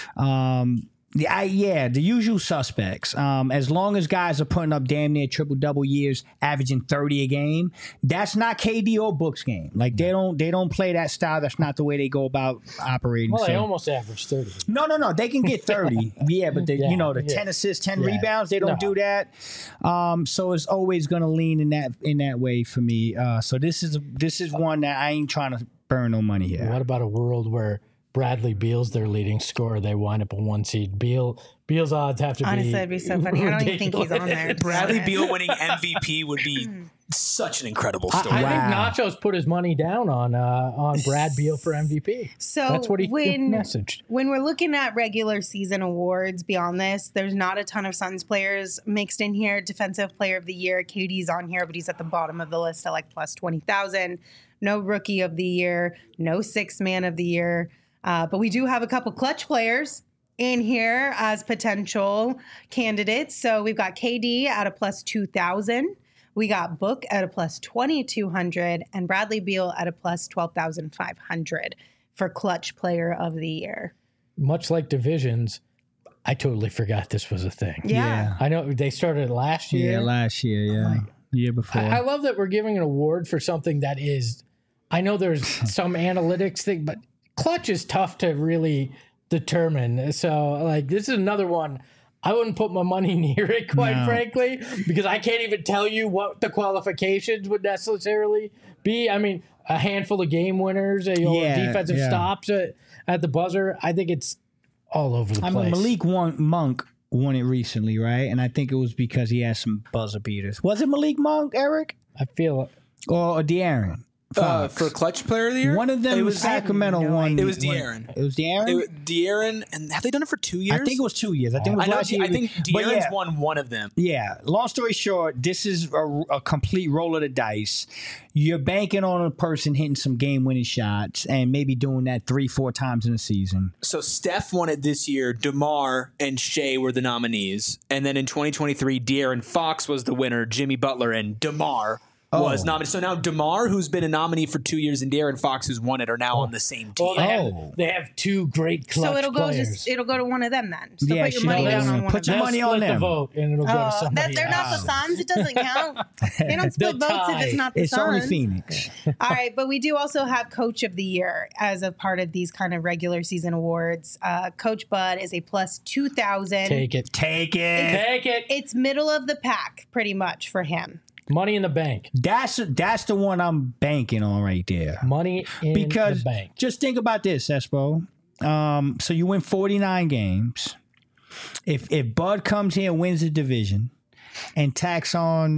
Um, the, I, yeah, the usual suspects. Um, as long as guys are putting up damn near triple double years, averaging thirty a game, that's not K D or Book's game. Like they don't they don't play that style. That's not the way they go about operating. Well, So- they almost averaged thirty. no, no, no. They can get thirty. Yeah, but they, Yeah, you know, the yeah. ten assists, ten Yeah. rebounds, they don't No. do that. Um, so it's always going to lean in that in that way for me. Uh, so this is this is one that I ain't trying to burn no money here. What about a world where Bradley Beal's their leading scorer? They wind up a one seed. Beal Beal's odds have to Honestly, be. that'd be so funny. I don't even think he's on there. to be Bradley honest. Beal winning M V P would be such an incredible I, story. I Wow. think Nacho's put his money down on uh, on Brad Beal for M V P. So That's what he when, messaged. When we're looking at regular season awards beyond this, there's not a ton of Suns players mixed in here. Defensive Player of the Year, K D's on here, but he's at the bottom of the list at like plus twenty thousand. No Rookie of the Year, no Sixth Man of the Year. Uh, but we do have a couple clutch players in here as potential candidates. So we've got K D at a plus two thousand. We got Book at a plus twenty-two hundred and Bradley Beal at a plus twelve thousand five hundred for clutch player of the year. Much like divisions, I totally forgot this was a thing. Yeah. I know they started last year. Yeah, last year, yeah, year before. I, I love that we're giving an award for something that is. I know there's some analytics thing, but clutch is tough to really determine. So, like, this is another one. I wouldn't put my money near it, quite No. frankly, because I can't even tell you what the qualifications would necessarily be. I mean, a handful of game winners, or Yeah, defensive yeah. stops at, at the buzzer. I think it's all over the I place. mean, Malik won, Monk won it recently, right? And I think it was because he had some buzzer beaters. Was it Malik Monk, Eric, I feel or, or De'Aaron? Uh, Fuck. for clutch player of the year, One of them It was was Sacramento no won. It was won- De'Aaron. It was De'Aaron. It was De'Aaron, and have they done it for two years? I think it was two years. I think it was I know. last De- year. I think But De'Aaron's yeah, won one of them. Yeah. Long story short, this is a, a complete roll of the dice. You're banking on a person hitting some game-winning shots and maybe doing that three, four times in a season. So Steph won it this year. DeMar and Shea were the nominees, and then in twenty twenty-three, De'Aaron Fox was the winner. Jimmy Butler and DeMar was Oh. nominated. So now DeMar, who's been a nominee for two years, and De'Aaron Fox, who's won it, are now on the same team. well, they, Oh. have, they have two great clutch So it'll go players. just it'll go to one of them then. So Yeah, put your she money knows. down on one Put of your them. money They'll on split the them. vote, and it'll go to Oh, somebody that, they're not the else. Suns. It doesn't count. They don't split They'll votes if tie. it's not the It's Suns. only Phoenix. All right, but we do also have Coach of the Year as a part of these kind of regular season awards. Uh, Coach Bud is a plus two thousand. Take it. Take it. Take it. It's middle of the pack, pretty much for him. Money in the bank. That's that's the one I'm banking on right there. Money in Because the bank. just think about this, Espo. Um, so you win forty-nine games. If if Bud comes here and wins the division and tacks on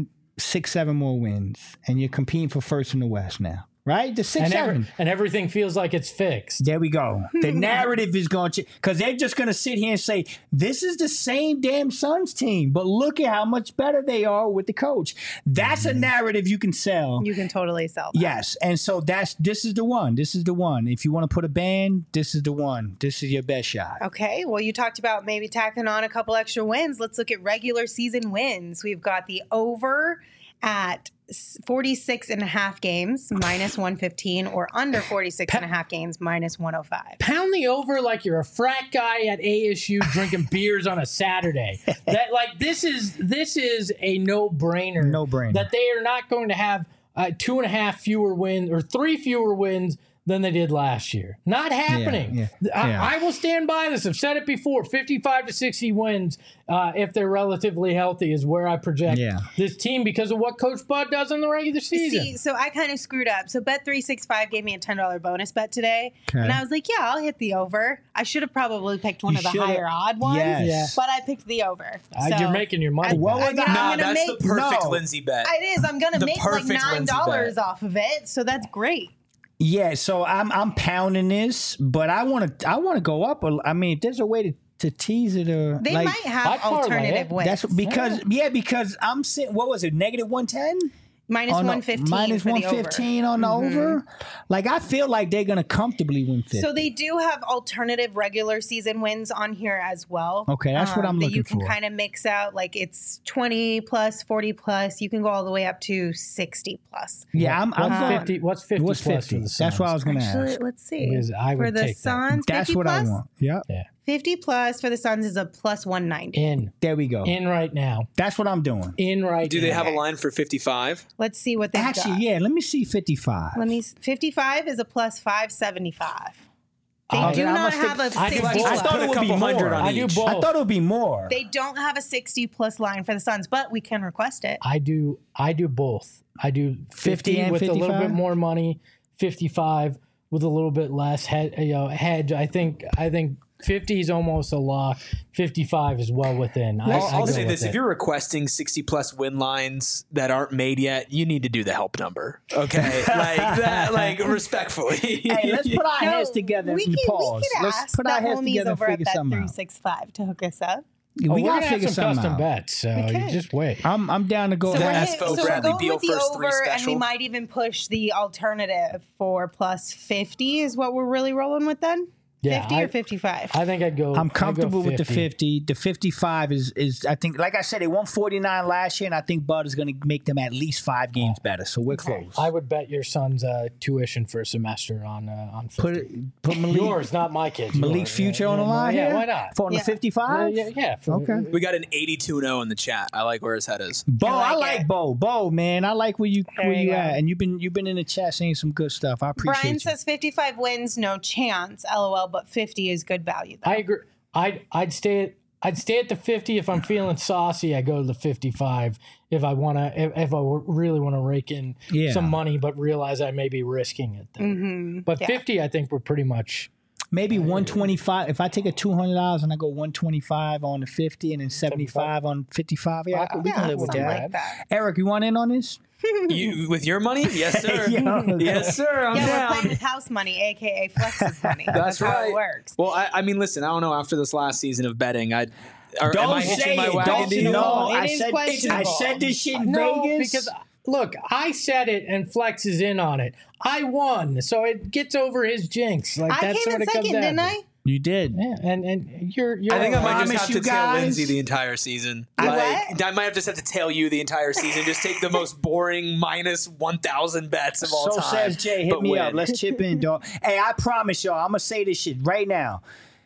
six, seven more wins, and you're competing for first in the West now, right? The six, and, seven. every, and everything feels like it's fixed. There we go. The narrative is going to, because they're just going to sit here and say, this is the same damn Suns team, but look at how much better they are with the coach. That's a narrative you can sell. You can totally sell that. Yes. And so that's, this is the one. This is the one. If you want to put a band, this is the one. This is your best shot. Okay, well, you talked about maybe tacking on a couple extra wins. Let's look at regular season wins. We've got the over at forty-six and a half games, minus one fifteen, or under forty-six and a half games, minus one oh five. Pound the over like you're a frat guy at A S U drinking beers on a Saturday. That like this is this is a no brainer. No brainer. That they are not going to have uh, two and a half fewer wins or three fewer wins than they did last year. Not happening. Yeah, yeah, I, yeah. I will stand by this. I've said it before. fifty-five to sixty wins, uh, if they're relatively healthy, is where I project Yeah. this team because of what Coach Bud does in the regular season. See, so I kind of screwed up. So Bet three sixty-five gave me a ten dollars bonus bet today. Okay. And I was like, yeah, I'll hit the over. I should have probably picked one You of the should've- higher odd ones. Yes. Yeah. But I picked the over. Uh, So you're making your money I, What I was mean, that? I'm Nah, gonna that's make, the perfect No. Lindsay bet. It is. I'm going to The make like perfect nine Lindsay dollars bet. off of it. So that's great. Yeah, so I'm I'm pounding this, but I want to I want to go up. a- I mean, if there's a way to, to tease it or They like, might have I'd parlay alternative it. wins. that's because yeah. because I'm saying what was it negative one ten minus one fifteen minus for one the over. fifteen on the over. Like I feel like they're gonna comfortably win fifty. So they do have alternative regular season wins on here as well. Okay, that's what I'm that looking you can for. kind of mix out. Like it's twenty plus, forty plus. You can go all the way up to sixty plus. yeah, I'm, I'm What's going. fifty? What's fifty What's plus fifty? for the Suns? That's what I was gonna Actually, ask. let's see. Because I for would the take that. Suns, That's fifty what plus. I want. Yeah, Yeah, fifty plus for the Suns is a plus one ninety. in there we go. in right now. That's what I'm doing. In right. Do now. they have a line for fifty-five? Let's see what they Actually, got. yeah. Let me see fifty-five. Let me. fifty-five is a plus five seventy-five. They I- do then I not must have a think- I do sixty. both. I thought Put it a would be couple hundred more. on I do each. both. I thought it would be more. They don't have a sixty plus line for the Suns, but we can request it. I do. I do both. I do fifty, fifty and with a little fifty-five? bit more money, fifty-five with a little bit less head, you know, hedge. I think. I think fifty is almost a lock. fifty-five is well within. I, I'll, I I'll go say with this: it. if you're requesting sixty plus win lines that aren't made yet, you need to do the help number. Okay, like that, like respectfully. Hey, let's put our No, heads together we and can, pause. We can Let's ask put our the heads homies together and over at figure Bet something three out. sixty-five to hook us up. Oh, we we're gotta gonna have figure some something custom out. bets, so Okay. you just wait. I'm I'm down to go. So The we're, there. hit- Espo so we're Bradley going Beal with the first three over, and we special. might even push the alternative for plus fifty. Is what we're really rolling with then? Yeah, fifty I- or fifty-five. I think I'd go. I'm I'd go comfortable with the fifty. The fifty-five is is I think, like I said, they won forty-nine last year, and I think Bud is going to make them at least five games better. So we're close. I would bet your son's uh, tuition for a semester on uh, on fifty. Put it, put Malik, yours, not my kids. Malik's yours. future Yeah, on the yeah, line Yeah, here? why not? For on Yeah. the fifty-five. Yeah, yeah. for- Okay. We got an eighty-two and oh in the chat. I like where his head is. Bo, I I like like it. Bo. Bo, man, I like where you There where you you go. at, and you've been you've been in the chat saying some good stuff. I appreciate Brian you. says fifty-five wins, no chance. LOL, but fifty is good value. Though. I agree. I'd I'd stay at I'd stay at the fifty if I'm feeling saucy. I go to the fifty-five if I want to. If, if I really want to rake in Yeah. some money, but realize I may be risking it. There. Mm-hmm. But Yeah. fifty, I think we're pretty much. Maybe one twenty-five. If I take a two hundred dollars and I go one twenty-five on the fifty and then seventy-five on fifty-five, yeah, I- we Yeah, can live with something that. like that. Eric, you want in on this? You with your money? Yes, sir. Yo. Yes, sir. I'm Yeah, we're down. playing with house money, aka Flex's money. That's, how right. it works. Well, I, I mean, listen. I don't know. After this last season of betting, I or, am Don't I say hitching my it. wagon Don't to you? no. It I is said I questionable. said this shit in No, Vegas because look, I said it, and Flex is in on it. I won, so it gets over his jinx. Like I that's came what in it comes second, down didn't to. I? you did. Yeah, and and you're you're. I think I all might right. promise just have you to tail guys- Lindsay the entire season. I like, what? I might have just have to tail you the entire season. Just take the most boring minus one thousand bets of all So time. says Jay. Hit but me win. up. Let's chip in, dog. Hey, I promise y'all, I'm gonna say this shit right now.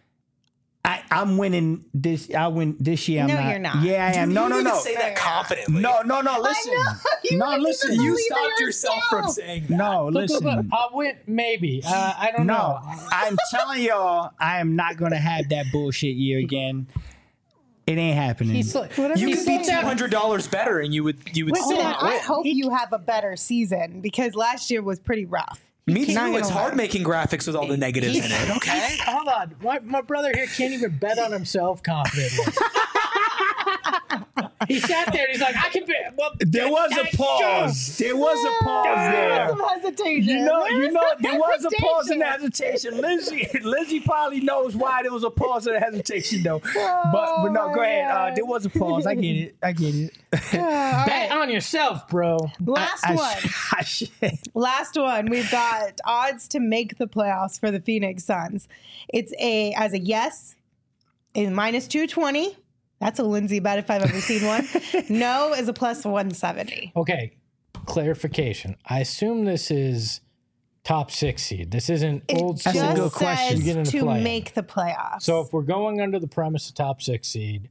I, I'm winning this. I win this year. I'm No, not. you're not. Yeah, I am. No, no, You no. can say that confidently. No, no, no. Listen. know. You No, wouldn't listen. even You believe stopped it yourself from yourself. saying that. No, Look, look, look, listen. I'll win, maybe. Uh, I don't No, know. I'm telling y'all, I am not gonna have that bullshit year again. It ain't happening. He's like, You he's could be like two that- hundred dollars better, and you would you would Wait, still hold not on. I win. hope you have a better season because last year was pretty rough. Me too. Not gonna It's lie. hard making graphics with all the negatives in it. Okay. Hold on. My, my brother here can't even bet on himself confidently. He sat there and he's like, I can be. Well, There was that's a pause. There was a pause there. Some hesitation. You know, There you was know, some there was a pause and hesitation. hesitation. Lizzie, Lizzie probably knows why there was a pause and hesitation, though. But, but no, go ahead. Uh, there was a pause. I get it. I get it. Bet on yourself, bro. Last I, one. I, I, Last one. We've got odds to make the playoffs for the Phoenix Suns. It's a as a yes, is minus two twenty. That's a Lindsay bet if I've ever seen one. No is a plus one seventy. Okay, clarification. I assume this is top six seed. This isn't It old just school. a good question. says You get into to play-in. make the playoffs. So if we're going under the premise of top six seed,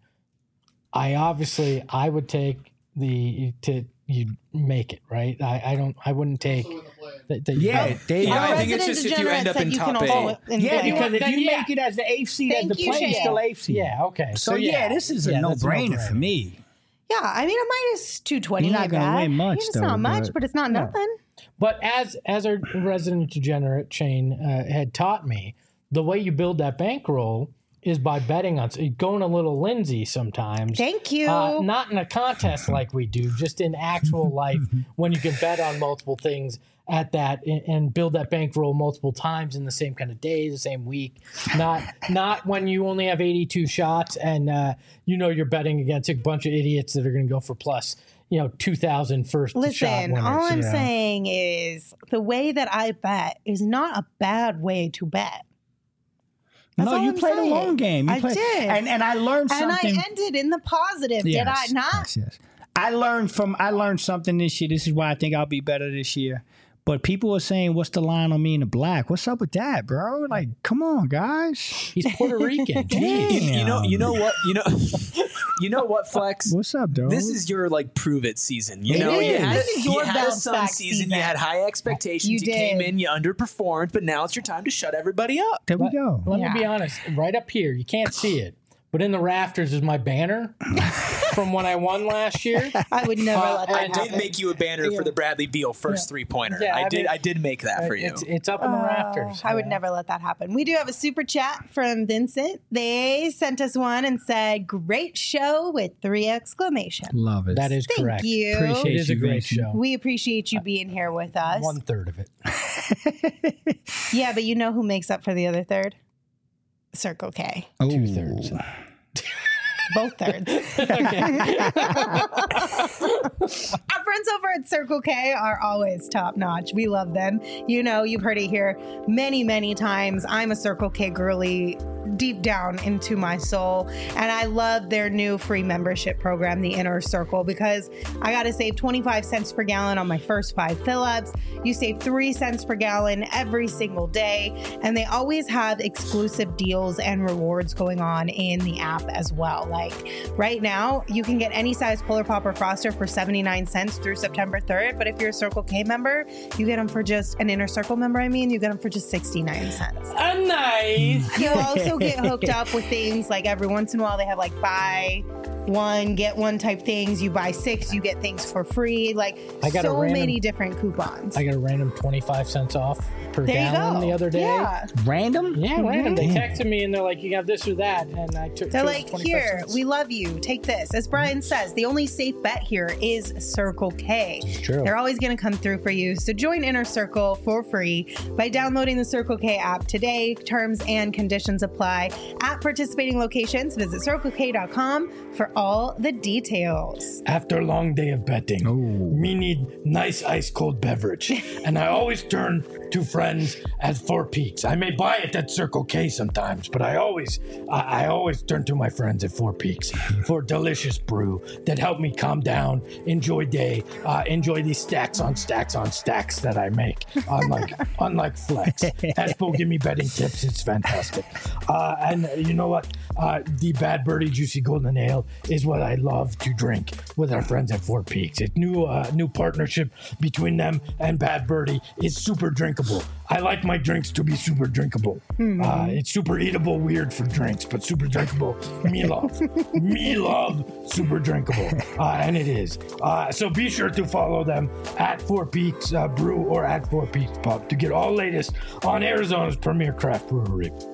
I obviously I would take the to you make it right. I, I don't. I wouldn't take. The, the, yeah, they, Yeah, Our I think it's resident just if you end degenerate up said in you can top also eight. in- yeah, in- because if then you yeah. make it as the eighth seed, as Thank the you, play, Shane. still eighth seed. yeah. Okay. So, yeah, this is a Yeah, that's no-brainer no-brainer. for me. Yeah, I mean a minus two twenty. You're not ain't gonna bad. win much, It's though, not much, but- but it's not nothing. But as as our resident degenerate Shane uh, had taught me, the way you build that bankroll is by betting on going a little Lindsay sometimes. Thank you. Uh, not in a contest like we do, just in actual life when you can bet on multiple things at that and, and build that bankroll multiple times in the same kind of day, the same week. Not not when you only have eighty-two shots and uh, you know you're betting against a bunch of idiots that are going to go for plus, you know, two thousand first shot Listen, winners. all I'm yeah. saying is the way that I bet is not a bad way to bet. That's no, all you I'm played saying. a long game. You I played, did. and and I learned And I something. ended in the positive, did I not? Yes, yes. I learned from I learned something this year. This is why I think I'll be better this year. But people are saying, "What's the line on me in the black?" What's up with that, bro? Like, come on, guys. He's Puerto Rican. Damn. You, you know, you know what, you know, you know what, Flex. What's up, dog? This is your like prove it season. You It know, you is. had, This is you your had a bounce Sun back season. season. You had high expectations. You You, came did. in, you underperformed, but now it's your time to shut everybody up. there we go. Let Yeah. me be honest. Right up here, you can't see it, but in the rafters is my banner from when I won last year. I would never Uh, let I that and did happen. make you a banner Yeah. for the Bradley Beal first three pointer. Yeah, I, I did. mean, I did make that for you. It's, it's up in the rafters. I would Yeah. never let that happen. We do have a super chat from Vincent. They sent us one and said, "Great show" with three exclamations. Love it. That is Thank correct. you. Appreciate It is a you, great Vincent. show. We appreciate you being here with us. One third of it. Yeah, but you know who makes up for the other third? Circle K. Two thirds. Both thirds. Our friends over at Circle K are always top notch. We love them. You know, you've heard it here many, many times. I'm a Circle K girly deep down into my soul. And I love their new free membership program, the Inner Circle, because I got to save twenty-five cents per gallon on my first five fill-ups. You save three cents per gallon every single day. And they always have exclusive deals and rewards going on in the app as well. Like right now, you can get any size Polar Pop or Froster for seventy-nine cents through September third. But if you're a Circle K member, you get them for just an Inner Circle member. I mean, you get them for just sixty-nine cents. Uh, nice. You also get hooked up with things like every once in a while they have like buy one, get one type things. You buy six, you get things for free. Like I got a so random- many different coupons. I got a random twenty-five cents off per there you gallon go. the other day. Yeah. Random? Yeah, random. They Damn. texted me and they're like, "You got this or that," and I took. They're chose like, twenty-five here, cents. we love you. Take this. As Brian says, the only safe bet here is Circle K. It's true. They're always going to come through for you. So join Inner Circle for free by downloading the Circle K app today. Terms and conditions apply. At participating locations, visit circle k dot com for all the details. After a long day of betting, Oh. me need nice ice cold beverage, and I always turn to friends at Four Peaks. I may buy it at Circle K sometimes, but I always, I, I always turn to my friends at Four Peaks for delicious brew that help me calm down, enjoy day, uh, enjoy these stacks on stacks on stacks that I make. Unlike, unlike Flex, Espo give me betting tips. It's fantastic, uh, and you know what? Uh, the Bad Birdie Juicy Golden Ale is what I love to drink with our friends at Four Peaks. It's new, uh, new partnership between them and Bad Birdie is super drinkable. I like my drinks to be super drinkable. Uh, it's super eatable, weird for drinks, but super drinkable. Me love, me love super drinkable, uh, and it is. Uh, so be sure to follow them at Four Peaks uh, Brew or at Four Peaks Pub to get all latest on Arizona's premier craft brewery.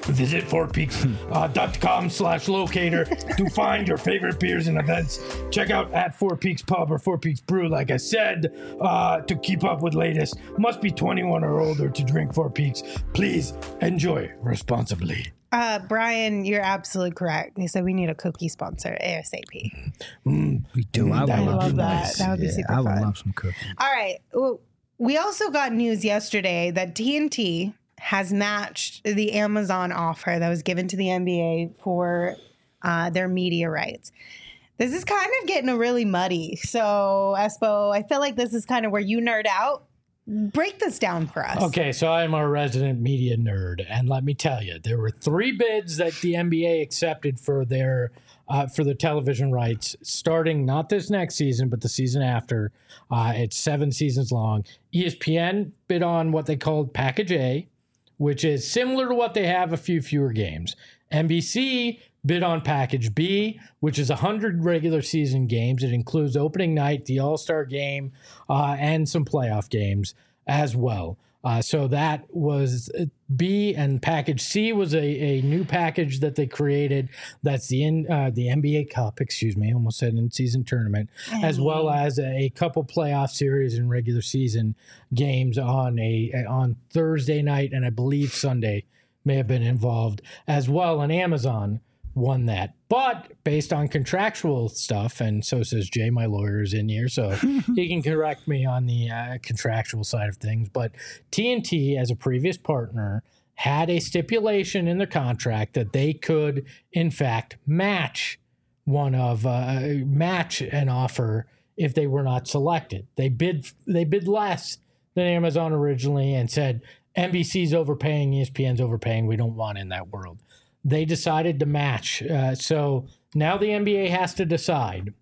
Visit four peaks dot com slash locator to find your favorite beers and events. Check out at Four Peaks Pub or Four Peaks Brew, like I said, uh, to keep up with latest. Must be twenty-one or older to drink Four Peaks. Please enjoy responsibly. Uh, Brian, you're absolutely correct. They said we need a cookie sponsor ASAP. Mm, We do. I would that I love, love some that. nice. That would be Yeah, super I would fun. love some cookies. All right. Well, we also got news yesterday that T N T has matched the Amazon offer that was given to the N B A for uh, their media rights. This is kind of getting a really muddy. So, Espo, I feel like this is kind of where you nerd out. Break this down for us. Okay, so I'm a resident media nerd, and let me tell you, there were three bids that the N B A accepted for their uh, for their television rights, starting not this next season, but the season after. Uh, it's seven seasons long. E S P N bid on what they called Package A, which is similar to what they have, a few fewer games. N B C bid on Package B, which is one hundred regular season games. It includes opening night, the All-Star game, uh, and some playoff games as well. Uh, so that was B, and Package C was a, a new package that they created. That's the in, uh, the N B A Cup, excuse me, almost said in-season tournament, as well as a, a couple playoff series and regular season games on a on Thursday night, and I believe Sunday may have been involved as well. And Amazon won that, but based on contractual stuff, and so says Jay, my lawyer is in here, so he can correct me on the uh, contractual side of things. But T N T, as a previous partner, had a stipulation in the contract that they could, in fact, match one of uh, match an offer if they were not selected. They bid they bid less than Amazon originally and said N B C's overpaying, E S P N's overpaying. We don't want in that world. They decided to match. Uh, so now the N B A has to decide,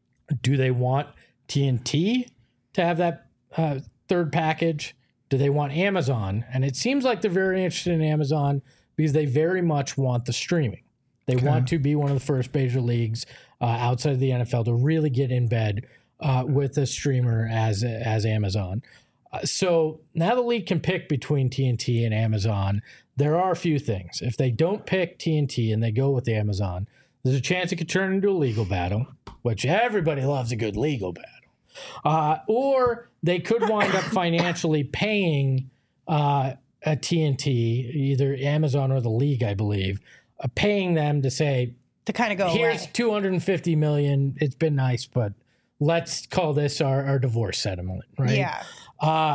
do they want T N T to have that uh, third package? Do they want Amazon? And it seems like they're very interested in Amazon because they very much want the streaming. They okay. want to be one of the first major leagues uh, outside of the N F L to really get in bed uh, with a streamer as, as Amazon. Uh, so now the league can pick between T N T and Amazon. There are a few things. If they don't pick T N T and they go with Amazon, there's a chance it could turn into a legal battle, which everybody loves a good legal battle. Uh, or they could wind up financially paying uh, a T N T, either Amazon or the league, I believe, uh, paying them to say, to kind of go here's away. two hundred fifty million dollars. It's been nice, but let's call this our, our divorce settlement, right? Yeah. Uh,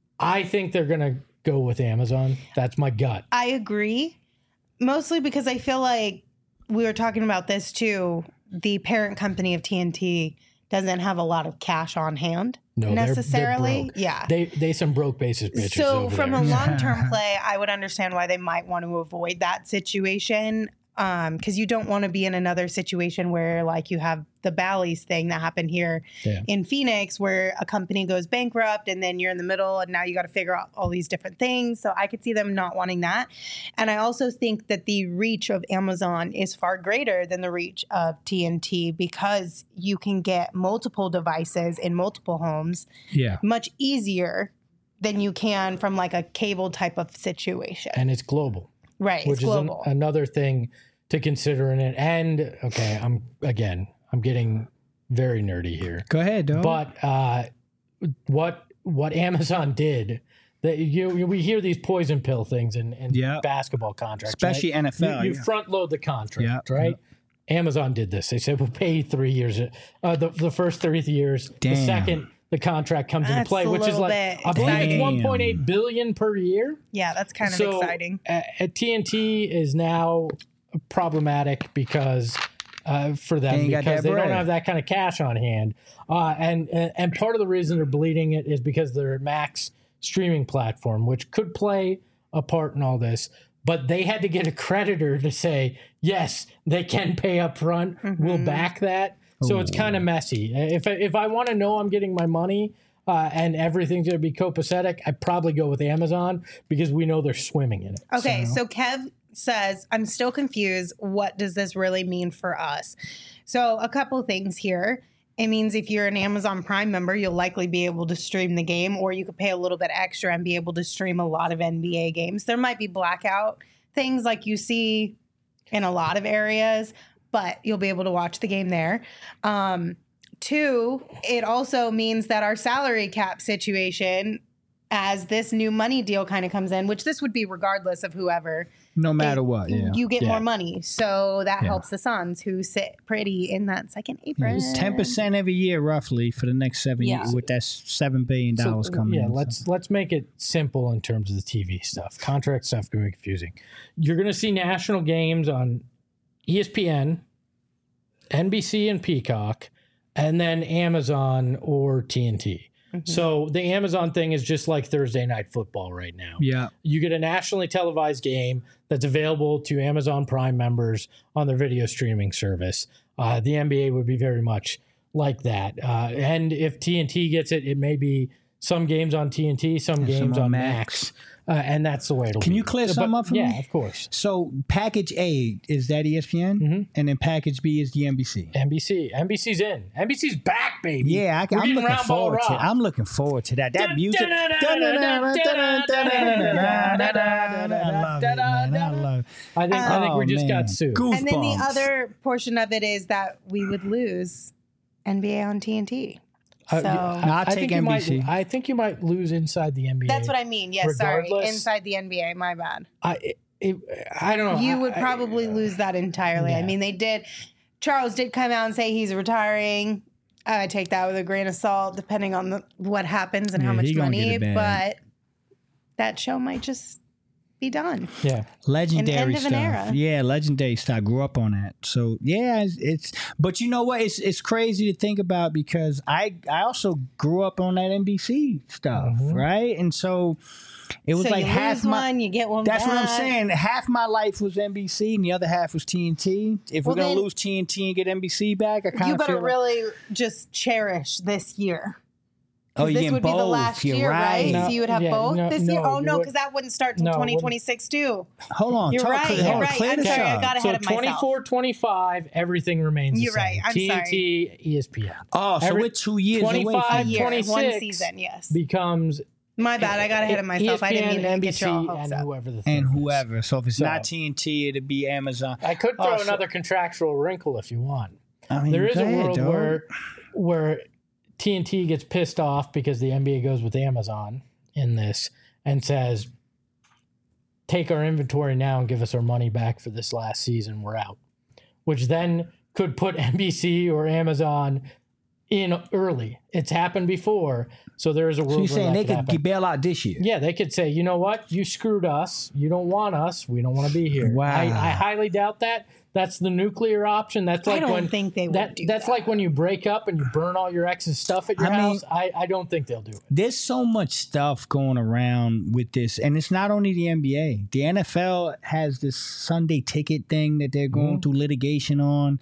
I think they're going to go with Amazon. That's my gut. I agree, mostly because I feel like we were talking about this too. The parent company of T N T doesn't have a lot of cash on hand no, necessarily. They're, they're broke. Yeah. They they some broke basis bitches. So over from there. a long-term play, I would understand why they might want to avoid that situation. Um, because you don't want to be in another situation where like you have the Bally's thing that happened here yeah. in Phoenix where a company goes bankrupt and then you're in the middle and now you got to figure out all these different things. So I could see them not wanting that. And I also think that the reach of Amazon is far greater than the reach of T N T because you can get multiple devices in multiple homes Yeah. much easier than you can from like a cable type of situation. And it's global. Right, which it's global. is an, another thing to consider in it. And okay, I'm again, I'm getting very nerdy here. Go ahead, dog. But uh, what what Amazon did, that you, you we hear these poison pill things in, in Yeah. basketball contracts, Especially right? N F L, You, you yeah. front load the contract, Yeah. right? Amazon did this. They said we'll pay you three years, uh, the the first three years. Damn. The second the contract comes into That's play, a which is little like bit I believe it's exciting. one point eight billion per year. Yeah, that's kind of So, exciting. Uh, at T N T is now problematic because uh, for them They ain't got because that they don't bread. have that kind of cash on hand, uh, and and part of the reason they're bleeding it is because their Max streaming platform, which could play a part in all this. But they had to get a creditor to say yes, they can pay up front. Mm-hmm. We'll back that. So it's kind of messy. If I, if I want to know I'm getting my money uh, and everything's going to be copacetic, I'd probably go with Amazon because we know they're swimming in it. Okay, so Kev says, I'm still confused. What does this really mean for us? So a couple things here. It means if you're an Amazon Prime member, you'll likely be able to stream the game, or you could pay a little bit extra and be able to stream a lot of N B A games. There might be blackout things like you see in a lot of areas, but you'll be able to watch the game there. Um, two, it also means that our salary cap situation, as this new money deal kind of comes in, which this would be regardless of whoever, No matter it- what, yeah. you get Yeah. more money. So that Yeah. helps the Suns, who sit pretty in that second apron. It's ten percent every year, roughly, for the next seven Yeah. years, with that seven billion dollars So, coming yeah, in. so. let's let's make it simple in terms of the T V stuff. Contract stuff can be confusing. You're going to see national games on E S P N, N B C, and Peacock, and then Amazon or T N T. Mm-hmm. So the Amazon thing is just like Thursday Night Football right now. Yeah. You get a nationally televised game that's available to Amazon Prime members on their video streaming service. Uh, the N B A would be very much like that. Uh, and if T N T gets it, it may be some games on T N T, some And some games on on Max. Max. Uh, and that's the way it'll Can be. you clear But- something up for yeah, me? of course. So package A is that E S P N, Mhm. and then package B is the N B C. N B C. N B C's in. N B C's back, baby. Yeah, I, We're I'm getting looking round ball forward to. rock. I'm looking forward to that. That Dun, music. dun, dun, dun, dun, dun, dun, dun, dun, dun, I love it, man. I love it. I think, I think Oh, we just man. got sued. Goosebumps. And then the other portion of it is that we would lose N B A on T N T. Uh, So- I- No, I'll I take think you N B C. Might, I think you might lose inside the N B A. That's what I mean. Yes, sorry. Regardless- Inside the N B A, my bad. I, it, it, I don't know. You I- would I- probably lose that entirely. I yeah. mean, they did. Charles did come out and say he's retiring. I take that with a grain of salt, depending on the, what happens and how Yeah, much he gonna money. get it But back. that show might just be done. Yeah. Legendary end of an stuff. era. Yeah, legendary stuff. I grew up on that. So yeah, it's, it's but you know what? It's it's crazy to think about because I I also grew up on that N B C stuff, Mhm. right? And so it was so like you half lose my one, you get one. That's what I'm back. saying. Half my life was N B C and the other half was T N T. If Well, we're gonna then- lose T N T and get N B C back, I kind You of better feel like, really just cherish this year. oh, This you're getting would be the both. last You're year, right? right. No, so you would have yeah, both no, this no, year. Oh you no, would- because that wouldn't start till No, it wouldn't. twenty twenty-six too. Hold on, You're talk, right, hold you're on, right. clear I'm this sorry, I up. got So ahead of myself. twenty-four twenty-five, everything remains You're the same. right. I'm T N T, E S P N. Oh, so Every- we're two years away twenty-five, from A year, one twenty-six season, yes. becomes My bad, I got ahead of myself. I didn't mean to N B get C, your all hopes and up. whoever the third and is. whoever. So if it's So- not T N T, it'd be Amazon. I could throw Oh, so- another contractual wrinkle if you want. I mean, There is go a ahead, world dog. where where T N T gets pissed off because the N B A goes with Amazon in this and says, take our inventory now and give us our money back for this last season. We're out. Which then could put N B C or Amazon in early. It's happened before. So there is a world So you're where saying that they could could happen. bail out this year? Yeah, they could say, you know what? You screwed us. You don't want us. We don't want to be here. Wow. I, I highly doubt that. That's the nuclear option. That's I like don't when think they would that, do That's that. like when you break up and you burn all your ex's stuff at your I mean- house. I, I don't think they'll do it. There's so much stuff going around with this, and it's not only the N B A. The N F L has this Sunday ticket thing that they're going Mhm. through litigation on.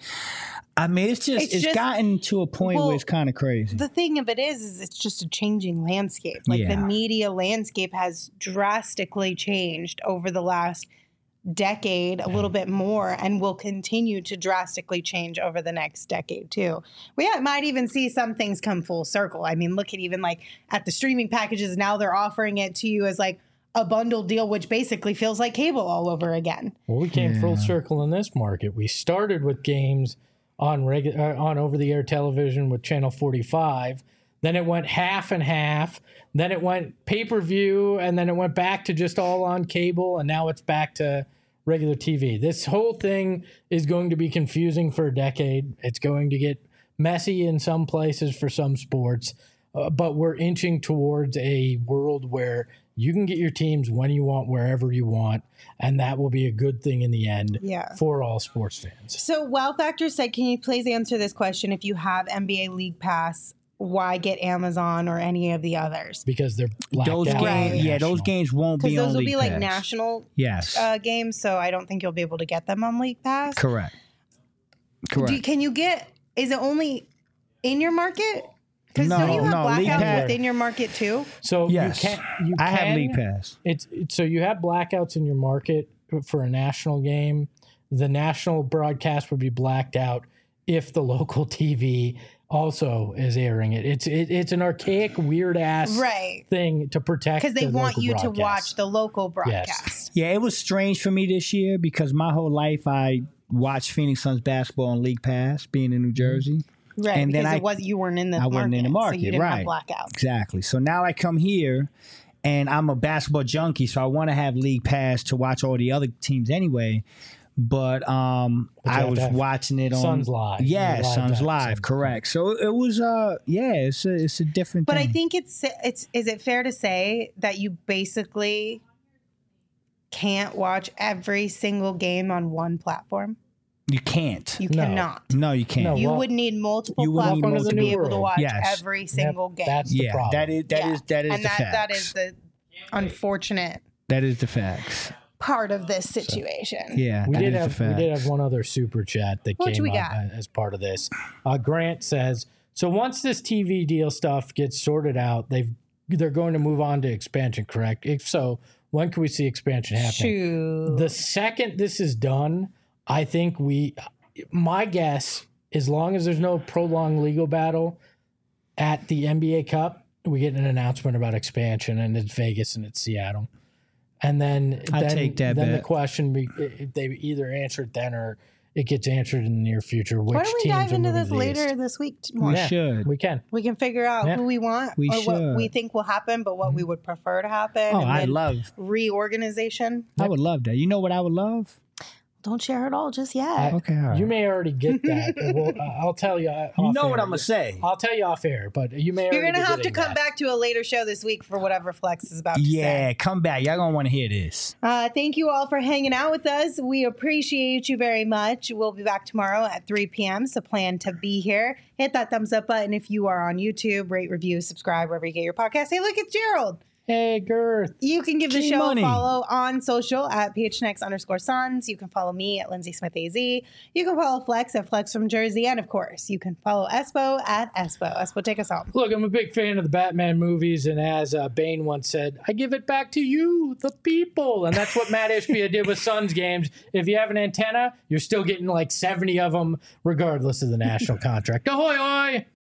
I mean, it's just It's it's, just- gotten to a point well, where it's kind of crazy. The thing of it is, is it's just a changing landscape. Like Yeah. the media landscape has drastically changed over the last decade, a little bit more, and will continue to drastically change over the next decade too. We might even see some things come full circle. I mean, look at even like at the streaming packages now, they're offering it to you as like a bundle deal, which basically feels like cable all over again. Well, we came full circle in this market. We started with games on regu- uh, on over-the-air television with Channel forty-five. Then it went half and half. Then it went pay-per-view, and then it went back to just all on cable, and now it's back to regular T V. This whole thing is going to be confusing for a decade. It's going to get messy in some places for some sports, uh, but we're inching towards a world where you can get your teams when you want, wherever you want, and that will be a good thing in the end Yeah. for all sports fans. So, Wow Factor said, can you please answer this question? If you have N B A League Pass, why get Amazon or any of the others? Because they're blacked those out. games, yeah, those National. games won't Because be those on will League be like Pass. national Yes, uh, games, so I don't think you'll be able to get them on League Pass. correct. Correct. Do, can you get? Is it only in your market? Because No, don't you have no, League blackouts Pass- within your market too? So yes, you can you I can, have League Pass. It's, it's so you have blackouts in your market for a national game. The national broadcast would be blacked out if the local T V also is airing it. It's it, it's an archaic, weird ass Right. thing to protect Because they the want local you to broadcast. watch the local broadcast. Yeah, it was strange for me this year because my whole life I watched Phoenix Suns basketball on League Pass, being in New Jersey. Right. And then because I- it was you weren't in the I market. wasn't in the market, So you didn't right. have blackout. Exactly. So now I come here and I'm a basketball junkie, so I want to have League Pass to watch all the other teams anyway. But um, But you I have was to have watching it on Suns Live. Yeah, Live Suns time, Live, Suns. correct. So it was uh yeah, it's a it's a different But thing. I think it's it's is it fair to say that you basically can't watch every single game on one platform? you can't. You No. cannot. no, you can't. No, You well, would need multiple you would need platforms to be multiple- able to watch Yes. every single Yep, game. That's the yeah, problem. that is that is Yeah. that is and the that facts. that is the unfortunate that is the facts. part of this situation. Yeah, We that did is have the we did facts. have one other super chat that What came we up got? as part of this. Uh, Grant says, "So once this T V deal stuff gets sorted out, they've they're going to move on to expansion, correct? If so, when can we see expansion happening? Shoot. The second this is done, I think we. My guess, as long as there's no prolonged legal battle at the N B A Cup, we get an announcement about expansion, and it's Vegas and it's Seattle." And then, I'd then, take that then the bet. question, be, if they either answer it then or it gets answered in the near future. Which Why don't we teams dive are into moving this to the later East. this week We more? Yeah. should. We can. We can figure out Yeah. who we want We or what we should. think will happen, but what we would prefer to happen. Oh, and I then love. reorganization. I would love that. You know what I would love? Don't share it all just yet. I- Okay, all right. You may already get that. Well, uh, I'll tell you. uh, You off know what air. I'm gonna say. I'll tell you off air, but you may. You're already gonna be have to getting come that. back to a later show this week for whatever Flex is about to Yeah, say. come back. Y'all gonna want to hear this. Uh, thank you all for hanging out with us. We appreciate you very much. We'll be back tomorrow at three p.m. So plan to be here. Hit that thumbs up button if you are on YouTube. Rate, review, subscribe wherever you get your podcast. Hey, look, it's Gerald. Hey, Girth. You can give the G show Money. a follow on social at phnx underscore sons. You can follow me at Lindsay Smith A Z. You can follow Flex at Flex from Jersey. And of course, you can follow Espo at Espo. Espo, take us home. Look, I'm a big fan of the Batman movies, and as uh, Bane once said, I give it back to you, the people. And that's what Matt Ishbia did with Suns games. If you have an antenna, you're still getting like seventy of them, regardless of the national contract. Ahoy, ahoy!